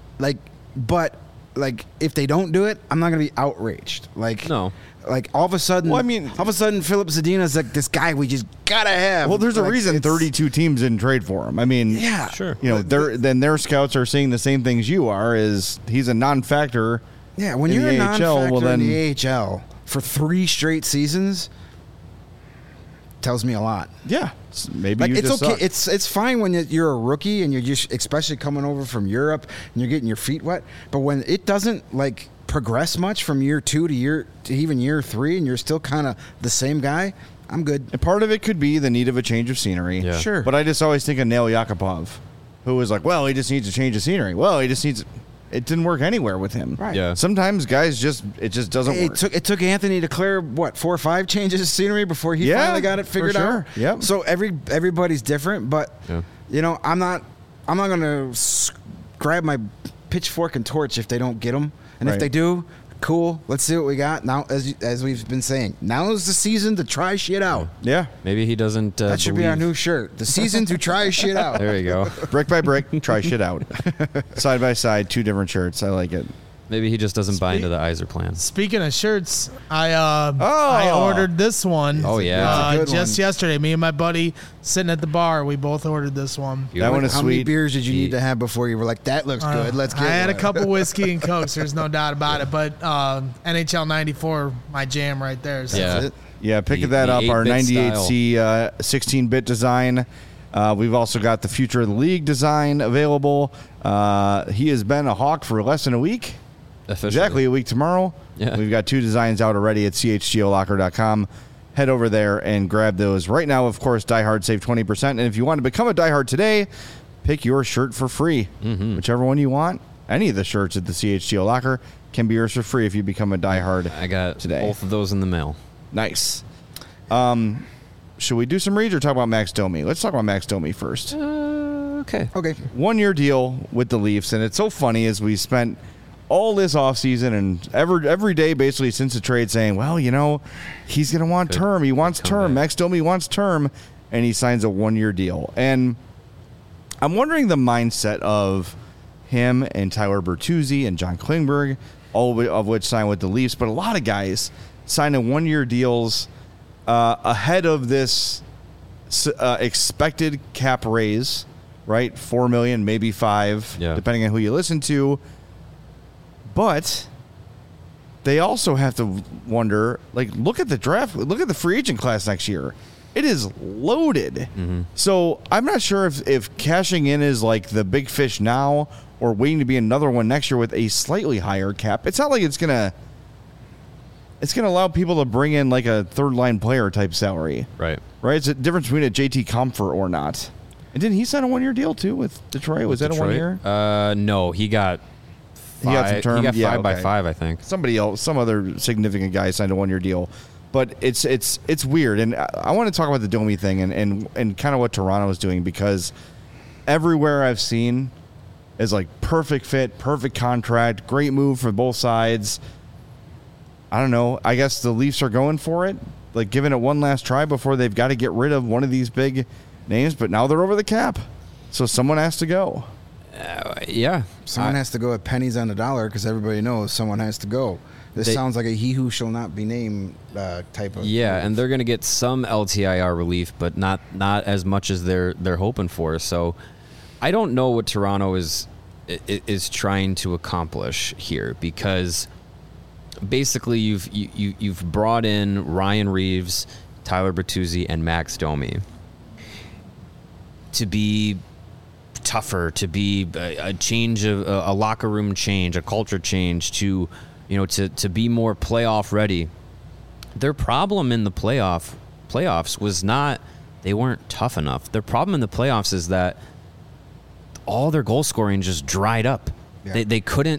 But if they don't do it, I'm not gonna be outraged. No. Like, all of a sudden, Philip Zadina's like this guy we just gotta have. Well, there's a Like, reason it's- 32 teams didn't trade for him. I mean, Yeah, Sure. You know, their scouts are seeing the same things you are. Is he's a non-factor? Yeah, when in you're the a AHL, non-factor well, then in the AHL for 3 straight seasons, tells me a lot. yeah, maybe Like, you it's just okay. suck. It's fine when you're a rookie and you're just, especially coming over from Europe and you're getting your feet wet. But when it doesn't progress much from year 2 to even year 3, and you're still kind of the same guy, I'm good. And part of it could be the need of a change of scenery. Yeah. Sure. But I just always think of Nail Yakupov, who was like, well, he just needs to change the scenery. Well, he just needs. It didn't work anywhere with him. Right. Yeah. Sometimes guys it just doesn't work. It took Anthony to clear 4 or 5 changes of scenery before he Yeah, finally got it figured for sure. out. Yep. So everybody's different, but Yeah. I'm not going to grab my pitchfork and torch if they don't get them, and Right. if they do, cool. Let's see what we got now. As we've been saying, now is the season to try shit out. Yeah. Maybe he doesn't. That should be our believe- new shirt. The season to try shit out. There you go. Brick by brick, try shit out. Side by side, 2 different shirts. I like it. Maybe he just doesn't buy into the Iser plan. Speaking of shirts, I ordered this one. Oh, yeah. Just yesterday. Me and my buddy sitting at the bar, we both ordered this one. That one is How many sweet. beers did you need to have before you were like, that looks good, let's get I had a one. couple whiskey and Cokes. There's no doubt about it. But NHL 94, my jam right there. So. Yeah. Yeah, pick The- that the up. Our 8-bit 98C 16-bit design. We've also got the Future of the League design available. He has been a Hawk for less than a week. Officially. Exactly a week tomorrow. Yeah. We've got 2 designs out already at chgolocker.com. Head over there and grab those. Right now, of course, Die Hard save 20%. And if you want to become a Die Hard today, pick your shirt for free. Whichever one you want. Any of the shirts at the CHGO Locker can be yours for free if you become a Die Hard I got today. both of those in the mail. Nice. Should we do some reads or talk about Max Domi? Let's talk about Max Domi first. Okay. Okay. 1-year deal with the Leafs, and it's so funny as we spent all this offseason and every day basically since the trade saying, well, you know, he's going to want term. He wants term. Max Domi wants term, and he signs a 1-year deal. And I'm wondering the mindset of him and Tyler Bertuzzi and John Klingberg, all of which signed with the Leafs, but a lot of guys signing 1-year deals ahead of this expected cap raise, right? $4 million, maybe $5 million, depending on who you listen to. But they also have to wonder, like, look at the draft, look at the free agent class next year. It is loaded. So I'm not sure if cashing in is like the big fish now or waiting to be another one next year with a slightly higher cap. It's not like it's gonna allow people to bring in like a third line player type salary. Right. It's a difference between a JT Comfort or not. And didn't he sign a 1-year deal too with Detroit? Was that a 1-year? No, he got He got some term. He got Yeah, 5 by okay. 5, I think. Somebody else, some other significant guy signed a 1-year deal. But it's weird, and I want to talk about the Domi thing and kind of what Toronto is doing, because everywhere I've seen is like perfect fit, perfect contract, great move for both sides. I don't know. I guess the Leafs are going for it, like giving it one last try before they've got to get rid of one of these big names. But now they're over the cap, so someone has to go. Yeah. Someone has to go at pennies on the dollar because everybody knows someone has to go. This sounds like a he who shall not be named type of. Yeah, and they're going to get some LTIR relief, but not as much as they're hoping for. So I don't know what Toronto is trying to accomplish here, because basically you've brought in Ryan Reeves, Tyler Bertuzzi, and Max Domi to be tougher, to be a change of a locker room change, a culture change, to be more playoff ready. Their problem in the playoffs was not they weren't tough enough. Their problem in the playoffs is that all their goal scoring just dried up. Yeah. They couldn't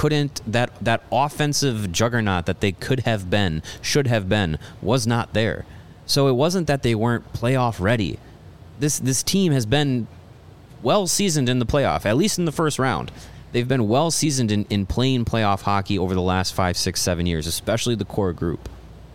that offensive juggernaut that they should have been was not there. So it wasn't that they weren't playoff ready. This team has been well seasoned in the playoff, at least in the first round. They've been well seasoned in playing playoff hockey over the last 5, 6, 7 years, especially the core group.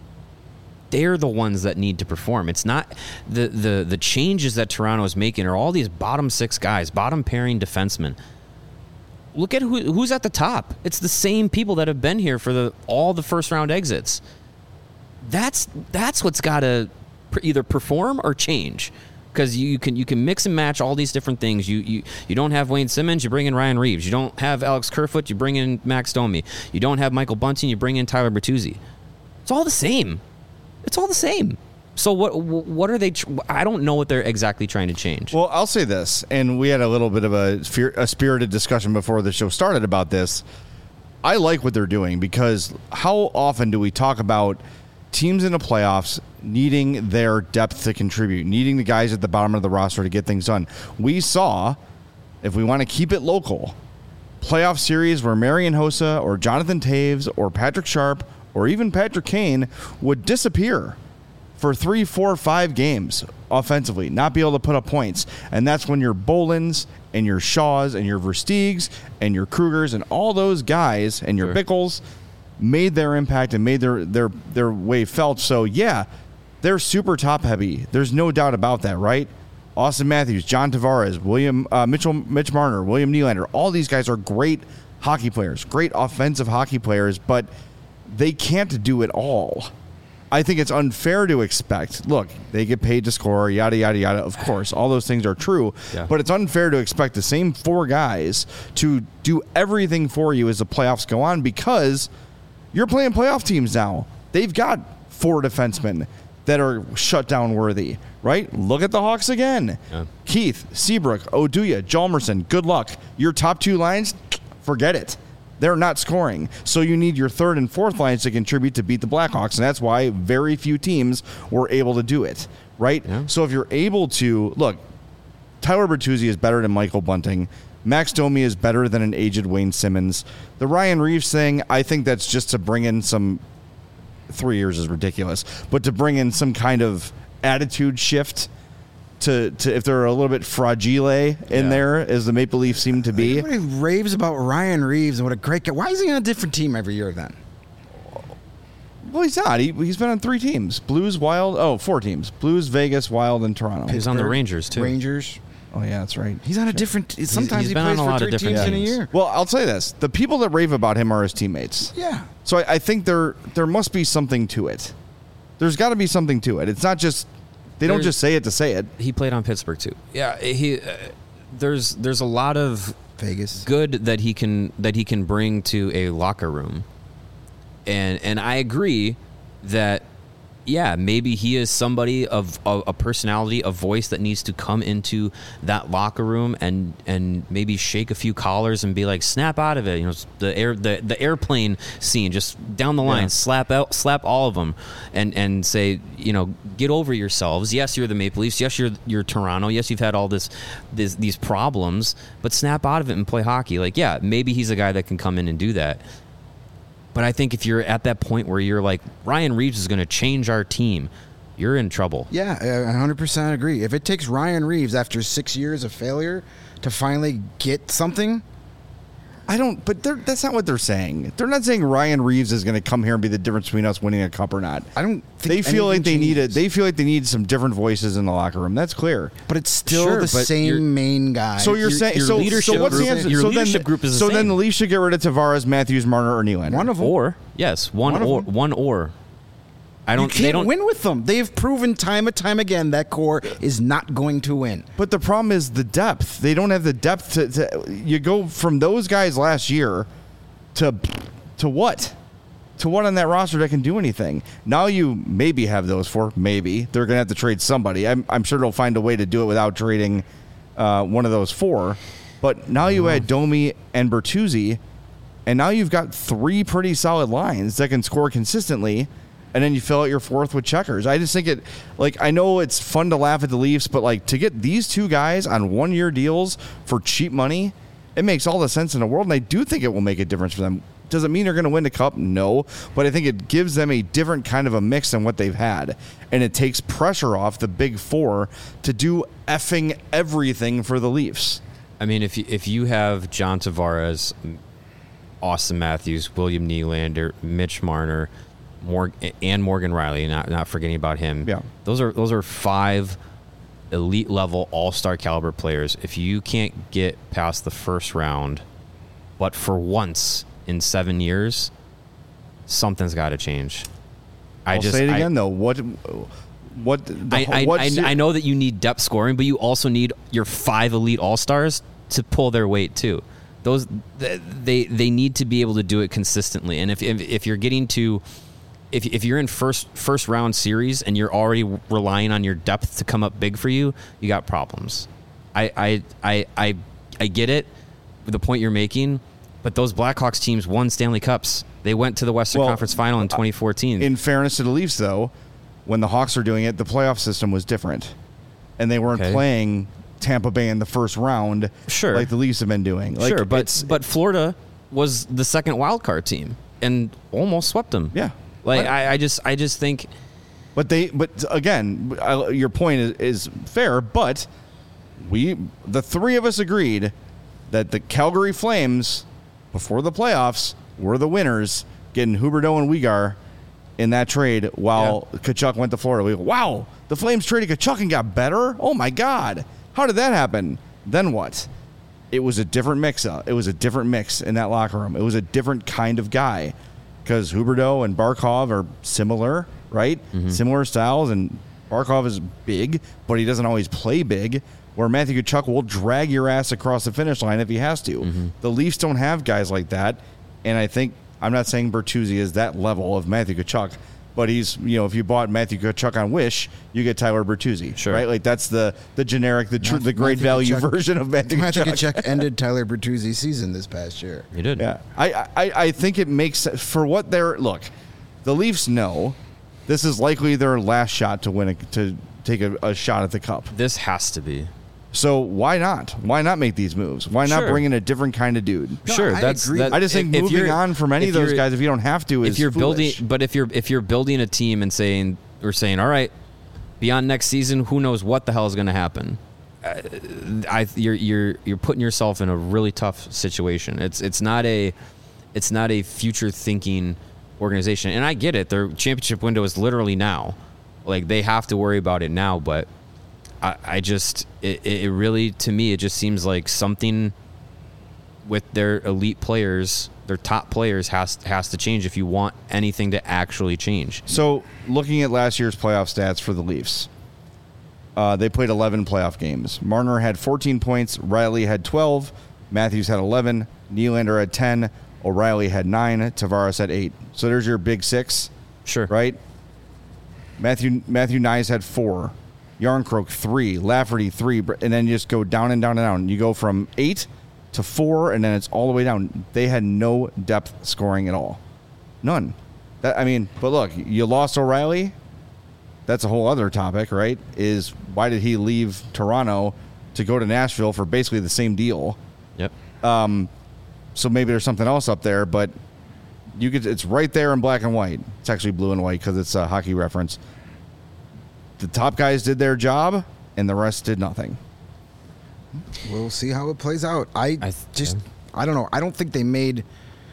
They're the ones that need to perform. It's not the changes that Toronto is making are all these bottom 6 guys, bottom pairing defensemen. Look at who's at the top. It's the same people that have been here for all the first round exits. That's what's got to either perform or change. Because you can mix and match all these different things. You don't have Wayne Simmons, you bring in Ryan Reeves. You don't have Alex Kerfoot, you bring in Max Domi. You don't have Michael Bunting, you bring in Tyler Bertuzzi. It's all the same. It's all the same. So what are they? I don't know what they're exactly trying to change. Well, I'll say this, and we had a little bit of a spirited discussion before the show started about this. I like what they're doing, because how often do we talk about teams in the playoffs needing their depth to contribute, needing the guys at the bottom of the roster to get things done? We saw, if we want to keep it local, playoff series where Marian Hossa or Jonathan Taves or Patrick Sharp or even Patrick Kane would disappear for 3, 4, 5 games offensively, not be able to put up points. And that's when your Bolins and your Shaws and your Versteegs and your Krugers and all those guys and your Bickles made their impact and made their way felt. So, yeah, they're super top-heavy. There's no doubt about that, right? Austin Matthews, John Tavares, Mitch Marner, William Nylander. All these guys are great hockey players, great offensive hockey players, but they can't do it all. I think it's unfair to expect, look, they get paid to score, yada, yada, yada. Of course, all those things are true, but it's unfair to expect the same 4 guys to do everything for you as the playoffs go on, because you're playing playoff teams now. They've got 4 defensemen that are shutdown worthy, right? Look at the Hawks again. Yeah. Keith, Seabrook, Oduya, Hjalmarsson, good luck. Your top 2 lines, forget it. They're not scoring. So you need your 3rd and 4th lines to contribute to beat the Blackhawks, and that's why very few teams were able to do it, right? Yeah. So if you're able to, look, Tyler Bertuzzi is better than Michael Bunting. Max Domi is better than an aged Wayne Simmons. The Ryan Reeves thing, I think that's just to bring in some, 3 years is ridiculous, but to bring in some kind of attitude shift to if they're a little bit fragile in there, as the Maple Leafs seem to be. Everybody raves about Ryan Reeves and what a great guy. Why is he on a different team every year then? Well, he's not. He's been on 3 teams. Blues, Wild, 4 teams. Blues, Vegas, Wild, and Toronto. He's on the Rangers, too. Rangers. Oh, yeah, that's right. He's on a different... Sometimes he plays for 3 teams in a year. Well, I'll say this. The people that rave about him are his teammates. Yeah. So I think there must be something to it. There's got to be something to it. It's not just... They don't just say it to say it. He played on Pittsburgh, too. Yeah, there's a lot of Vegas good that he can bring to a locker room. And I agree that, yeah, maybe he is somebody of a personality, a voice that needs to come into that locker room and maybe shake a few collars and be like, snap out of it. You know, the airplane scene, just down the line, slap all of them and say, you know, get over yourselves. Yes, you're the Maple Leafs. Yes, you're Toronto. Yes, you've had all these problems, but snap out of it and play hockey. Like, yeah, maybe he's a guy that can come in and do that. But I think if you're at that point where you're like, Ryan Reeves is going to change our team, you're in trouble. Yeah, I 100% agree. If it takes Ryan Reeves after 6 years of failure to finally get something... But that's not what they're saying. They're not saying Ryan Reeves is going to come here and be the difference between us winning a cup or not. I don't think they feel like they need it. They feel like they need some different voices in the locker room. That's clear. But it's still the same main guy. So you're saying your leadership what's the answer? Your leadership group is the same. So then the Leafs should get rid of Tavares, Matthews, Marner, or Nylander. One of them. One or. You can't win with them. They've proven time and time again that core is not going to win. But the problem is the depth. They don't have the depth to you go from those guys last year to what? To what on that roster that can do anything? Now you maybe have those 4. Maybe. They're going to have to trade somebody. I'm sure they'll find a way to do it without trading one of those 4. But now you add Domi and Bertuzzi, and now you've got 3 pretty solid lines that can score consistently. And then you fill out your 4th with checkers. I just think I know it's fun to laugh at the Leafs, but like to get these 2 guys on 1-year deals for cheap money, it makes all the sense in the world. And I do think it will make a difference for them. Does it mean they're going to win the cup? No. But I think it gives them a different kind of a mix than what they've had. And it takes pressure off the big 4 to do effing everything for the Leafs. I mean, if you have John Tavares, Austin Matthews, William Nylander, Mitch Marner, and Morgan Riley, not forgetting about him. Yeah. Those are 5 elite level all-star caliber players. If you can't get past the first round, but for once in 7 years, something's got to change. I'll say it again though. I know that you need depth scoring, but you also need your 5 elite all-stars to pull their weight too. Those they need to be able to do it consistently. And if you're getting to If you're in first round series and you're already relying on your depth to come up big for you, you got problems. I get it, the point you're making, but those Blackhawks teams won Stanley Cups. They went to the Western Conference Final in 2014. In fairness to the Leafs, though, when the Hawks were doing it, the playoff system was different, and they weren't playing Tampa Bay in the first round, like the Leafs have been doing. Like, but Florida was the second wild card team and almost swept them. Yeah. Like I just think, but again, your point is fair. But the 3 of us agreed that the Calgary Flames before the playoffs were the winners, getting Huberdeau and Weegar in that trade while Tkachuk went to Florida. We go, wow, the Flames traded Tkachuk and got better? Oh, my God. How did that happen? Then what? It was a different mix-up. It was a different mix in that locker room. It was a different kind of guy because Huberdeau and Barkov are similar, right? Similar styles, and Barkov is big, but he doesn't always play big, where Matthew Tkachuk will drag your ass across the finish line if he has to. The Leafs don't have guys like that, and I think, I'm not saying Bertuzzi is that level of Matthew Tkachuk, but he's, if you bought Matthew Tkachuk on Wish, you get Tyler Bertuzzi, right? Like that's the generic, the great value version of Matthew Tkachuk. Matthew Tkachuk ended Tyler Bertuzzi's season this past year. He did. Yeah, I think it makes sense for what they're. Look, the Leafs know this is likely their last shot to win to take a shot at the cup. This has to be. So why not? Why not make these moves? Why not bring in a different kind of dude? Sure, that's. I just think moving on from any of those guys, if you don't have to, is foolish. But if you're building a team and saying, all right, beyond next season, who knows what the hell is going to happen? You're putting yourself in a really tough situation. It's not a future thinking organization, and I get it. Their championship window is literally now. Like they have to worry about it now, but. It really, to me, it just seems like something with their elite players, their top players has to change if you want anything to actually change. So looking at last year's playoff stats for the Leafs, they played 11 playoff games. Marner had 14 points. Riley had 12. Matthews had 11. Nylander had 10. O'Reilly had 9. Tavares had 8. So there's your big six. Sure. Right? Matthew Knies had 4. Yarncroke 3, Lafferty 3, and then you just go down and down and down. You go from 8 to 4, and then it's all the way down. They had no depth scoring at all. None. But look, you lost O'Reilly. That's a whole other topic, right? Is why did he leave Toronto to go to Nashville for basically the same deal? Yep. So maybe there's something else up there, but it's right there in black and white. It's actually blue and white because it's a hockey reference. The top guys did their job, and the rest did nothing. We'll see how it plays out. I don't know. I don't think they made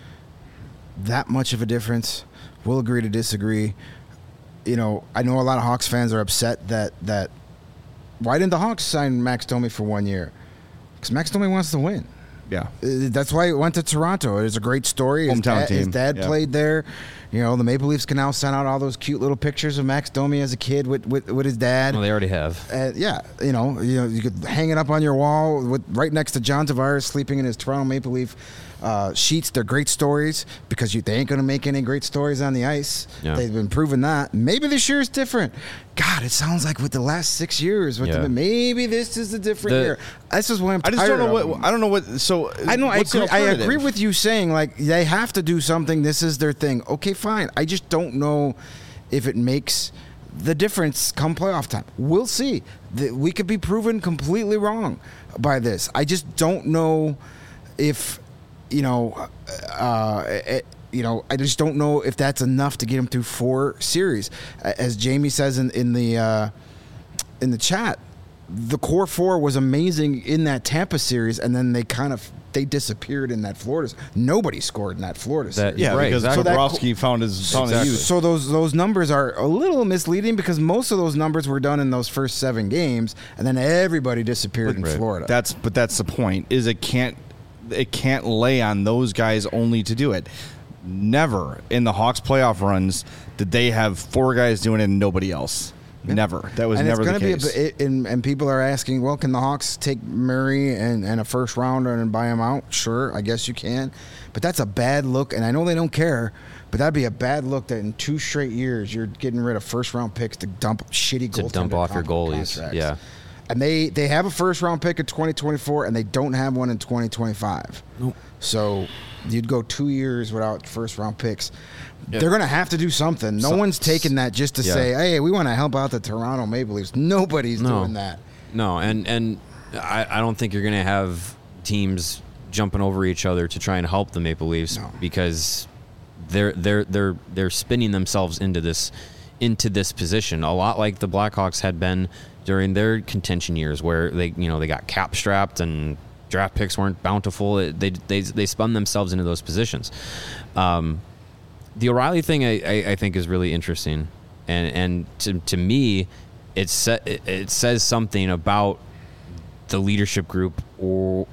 that much of a difference. We'll agree to disagree. I know a lot of Hawks fans are upset that why didn't the Hawks sign Max Domi for 1 year? Because Max Domi wants to win. Yeah. That's why he went to Toronto. It was a great story. Hometown team. His dad played there. The Maple Leafs can now send out all those cute little pictures of Max Domi as a kid with his dad. Well, they already have. You could hang it up on your wall right next to John Tavares sleeping in his Toronto Maple Leaf sheets. They're great stories because they ain't going to make any great stories on the ice. Yeah. They've been proving that. Maybe this year is different. God, it sounds like with the last 6 years, maybe this is a different year. This is why I'm tired. I don't know what. So I agree with you saying like they have to do something. This is their thing. Okay, fine. I just don't know if it makes the difference come playoff time. We'll see. We could be proven completely wrong by this. I just don't know if I just don't know if that's enough to get him through 4 series. As Jamie says in the chat, the core 4 was amazing in that Tampa series, and then they disappeared in that Florida. Nobody scored in that Florida series. Because Bobrovsky found his use. So those numbers are a little misleading because most of those numbers were done in those first 7 games, and then everybody disappeared in Florida. That's the point. Is it can't lay on those guys only to do it. Never in the Hawks playoff runs did they have 4 guys doing it and nobody else. Never. That was never the case. And people are asking, well, can the Hawks take Murray and a first rounder and buy him out? Sure, I guess you can. But that's a bad look, and I know they don't care, but that'd be a bad look that in 2 straight years you're getting rid of first-round picks to dump shitty goaltenders. To dump off your goalies, contracts. Yeah. And they have a first-round pick in 2024, and they don't have one in 2025. Nope. So you'd go 2 years without first-round picks. They're going to have to do something. No one's taking that just to say, hey, we want to help out the Toronto Maple Leafs. Nobody's doing that. No, and I don't think you're going to have teams jumping over each other to try and help the Maple Leafs because they're spinning themselves into this position a lot like the Blackhawks had been during their contention years where they got cap strapped and draft picks weren't bountiful. They spun themselves into those positions. the O'Reilly thing I think is really interesting, and to me, it says something about the leadership group or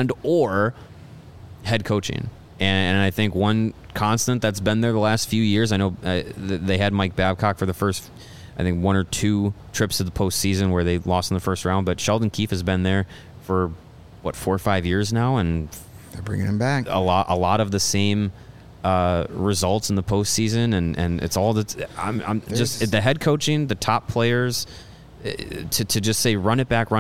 head coaching, and I think one constant that's been there the last few years. I know they had Mike Babcock for the first, I think, 1 or 2 trips to the postseason where they lost in the first round, but Sheldon Keefe has been there for 4 or 5 years now, and they're bringing him back. A lot of the same results in the postseason, and it's all that I'm just the head coaching, the top players, to just say run it back.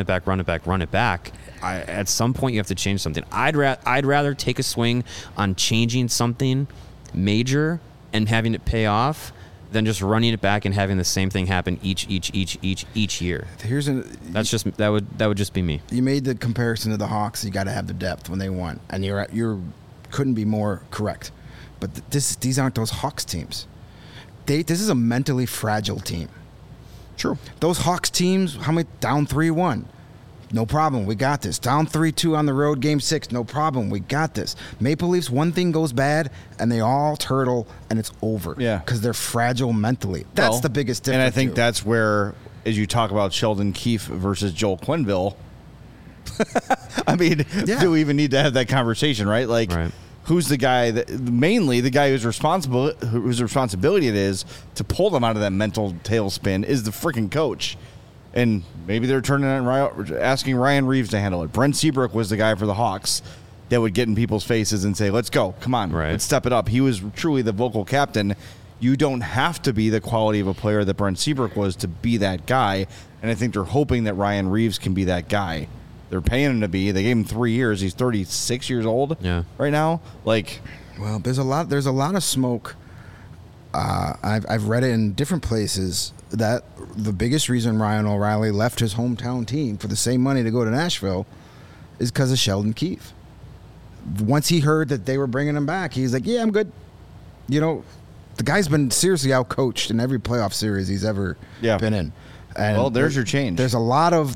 At some point you have to change something. I'd rather take a swing on changing something major and having it pay off than just running it back and having the same thing happen each year. That would just be me. You made the comparison to the Hawks. You got to have the depth when they won, and you couldn't be more correct. But these aren't those Hawks teams. This is a mentally fragile team. True. Those Hawks teams, how many down 3-1? No problem, we got this. Down 3-2 on the road, Game 6, no problem, we got this. Maple Leafs, one thing goes bad, and they all turtle, and it's over. Yeah. Because they're fragile mentally. That's the biggest difference. And I think that's where, as you talk about Sheldon Keefe versus Joel Quenneville, I mean, do we even need to have that conversation, right? Like, who's the guy mainly the guy whose responsibility it is to pull them out of that mental tailspin is the freaking coach. And maybe they're asking Ryan Reeves to handle it. Brent Seabrook was the guy for the Hawks that would get in people's faces and say, let's go, come on, let's step it up. He was truly the vocal captain. You don't have to be the quality of a player that Brent Seabrook was to be that guy. And I think they're hoping that Ryan Reeves can be that guy. They're paying him to be. They gave him 3 years. He's 36 years old right now. Well, there's a lot of smoke. I've read it in different places that the biggest reason Ryan O'Reilly left his hometown team for the same money to go to Nashville is because of Sheldon Keefe. Once he heard that they were bringing him back, he's like, yeah, I'm good. You know, the guy's been seriously outcoached in every playoff series he's ever been in. And there's your change. There's a lot of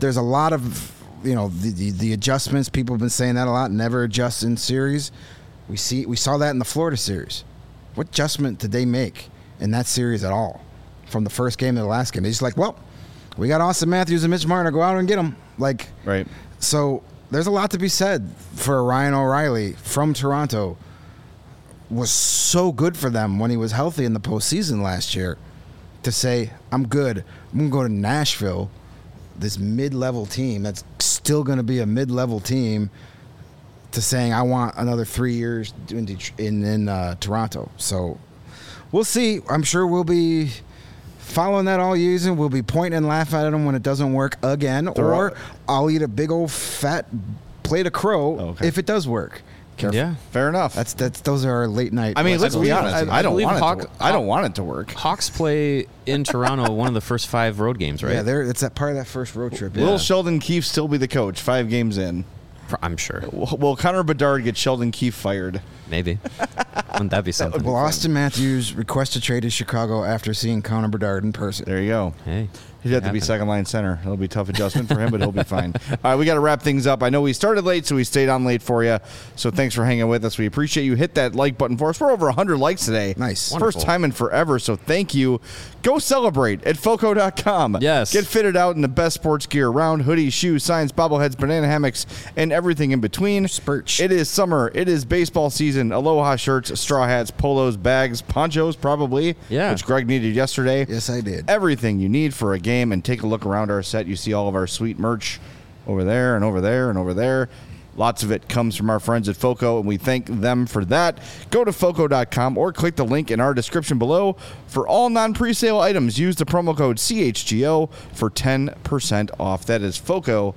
the adjustments. People have been saying that a lot. Never adjust in series. We saw that in the Florida series. What adjustment did they make in that series at all? From the first game to the last game, they're just like, well, we got Austin Matthews and Mitch Marner. Go out and get them. So there's a lot to be said for Ryan O'Reilly from Toronto. Was so good for them when he was healthy in the postseason last year. To say, I'm good. I'm gonna go to Nashville, this mid-level team that's still going to be a mid-level team, to saying I want another 3 years in Toronto. So we'll see. I'm sure we'll be following that all season. We'll be pointing and laughing at them when it doesn't work again, or I'll eat a big old fat plate of crow if it does work. Careful. Yeah, fair enough. Those are our late night. I mean, let's be honest. I don't want it to work. Hawks play in Toronto one of the first 5 road games, right? Yeah, it's that part of that first road trip. Will Sheldon Keefe still be the coach 5 games in? I'm sure. Will Connor Bedard get Sheldon Keefe fired? Maybe. Wouldn't that be something? Will Austin Matthews request a trade to Chicago after seeing Connor Bedard in person? There you go. Hey. He'd have to be second line center. It'll be a tough adjustment for him, but he'll be fine. All right, we got to wrap things up. I know we started late, so we stayed on late for you. So thanks for hanging with us. We appreciate you. Hit that like button for us. We're over 100 likes today. Nice. Wonderful. First time in forever, so thank you. Go celebrate at Foco.com. Yes. Get fitted out in the best sports gear around: hoodies, shoes, signs, bobbleheads, banana hammocks, and everything in between. Spurch. It is summer. It is baseball season. Aloha shirts, straw hats, polos, bags, ponchos, probably. Yeah. Which Greg needed yesterday. Yes, I did. Everything you need for a game, and take a look around our set. You see all of our sweet merch over there and over there and over there. Lots of it comes from our friends at Foco, and we thank them for that. Go to Foco.com or click the link in our description below. For all non-presale items, use the promo code CHGO for 10% off. That is Foco,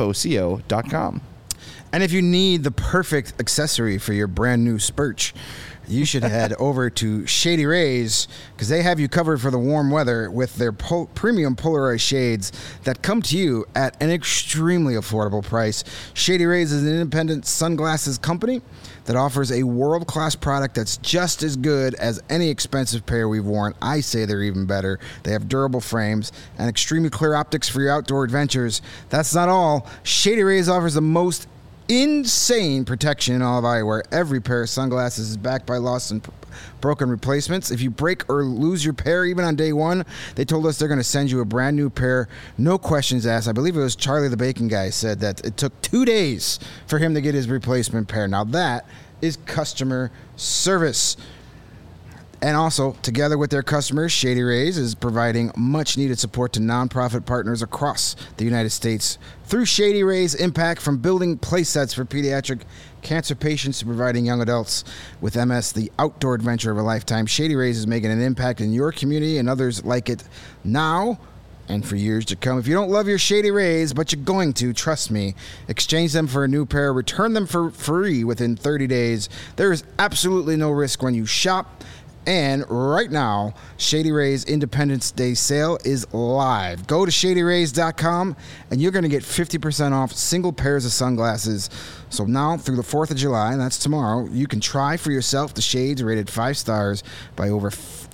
Foco.com. And if you need the perfect accessory for your brand new Spurch, you should head over to Shady Rays, because they have you covered for the warm weather with their premium polarized shades that come to you at an extremely affordable price. Shady Rays is an independent sunglasses company that offers a world-class product that's just as good as any expensive pair we've worn. I say they're even better. They have durable frames and extremely clear optics for your outdoor adventures. That's not all. Shady Rays offers the most insane protection in all of eyewear. Every pair of sunglasses is backed by lost and broken replacements. If you break or lose your pair, even on day one, they told us they're going to send you a brand new pair. No questions asked. I believe it was Charlie the Bacon Guy said that it took 2 days for him to get his replacement pair. Now that is customer service. And also, together with their customers, Shady Rays is providing much-needed support to nonprofit partners across the United States through Shady Rays' impact from building play sets for pediatric cancer patients to providing young adults with MS the outdoor adventure of a lifetime. Shady Rays is making an impact in your community and others like it now and for years to come. If you don't love your Shady Rays, but you're going to, trust me, exchange them for a new pair, return them for free within 30 days. There is absolutely no risk when you shop. And right now, Shady Rays Independence Day sale is live. Go to ShadyRays.com and you're going to get 50% off single pairs of sunglasses. So now through the 4th of July, and that's tomorrow, you can try for yourself the shades rated 5 stars by over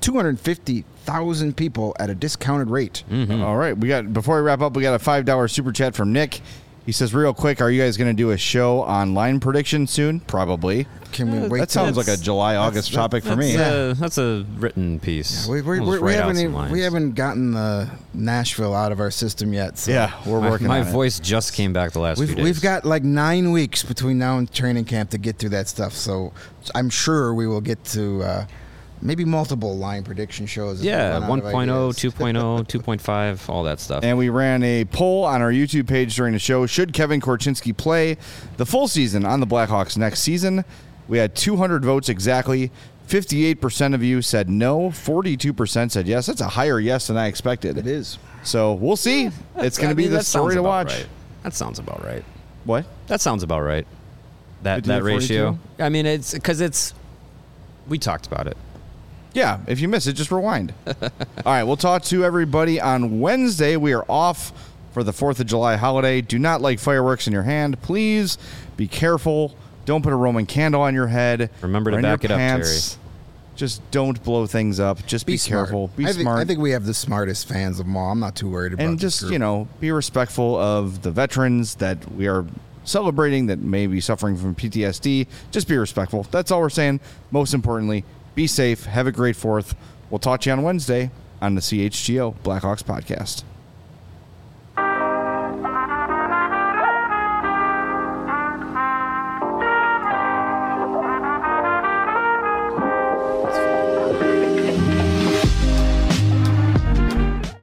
250,000 people at a discounted rate. All right, before we wrap up, we got a $5 super chat from Nick. He says, real quick, are you guys going to do a show on line prediction soon? Probably. Can we wait? That sounds like a July, August topic for me. That's a written piece. Yeah, we haven't gotten Nashville out of our system yet. So. Yeah, we're working on it. My voice just came back the last few days. We've got like 9 weeks between now and training camp to get through that stuff. So I'm sure we will get to maybe multiple line prediction shows. Yeah, 1.0, 2.0, 2.5, all that stuff. And we ran a poll on our YouTube page during the show. Should Kevin Korchinski play the full season on the Blackhawks next season? We had 200 votes exactly. 58% of you said no. 42% said yes. That's a higher yes than I expected. It is. So we'll see. It's going to be the story to watch. Right. That sounds about right. What? That sounds about right. That ratio. I mean, it's because we talked about it. Yeah, if you miss it, just rewind. All right, we'll talk to everybody on Wednesday. We are off for the 4th of July holiday. Do not light fireworks in your hand. Please be careful. Don't put a Roman candle on your head. Remember to back it up, Terry. Just don't blow things up. Just be careful. Be smart. I think we have the smartest fans of them all. I'm not too worried about it. And just, be respectful of the veterans that we are celebrating that may be suffering from PTSD. Just be respectful. That's all we're saying. Most importantly, be safe. Have a great 4th. We'll talk to you on Wednesday on the CHGO Blackhawks podcast.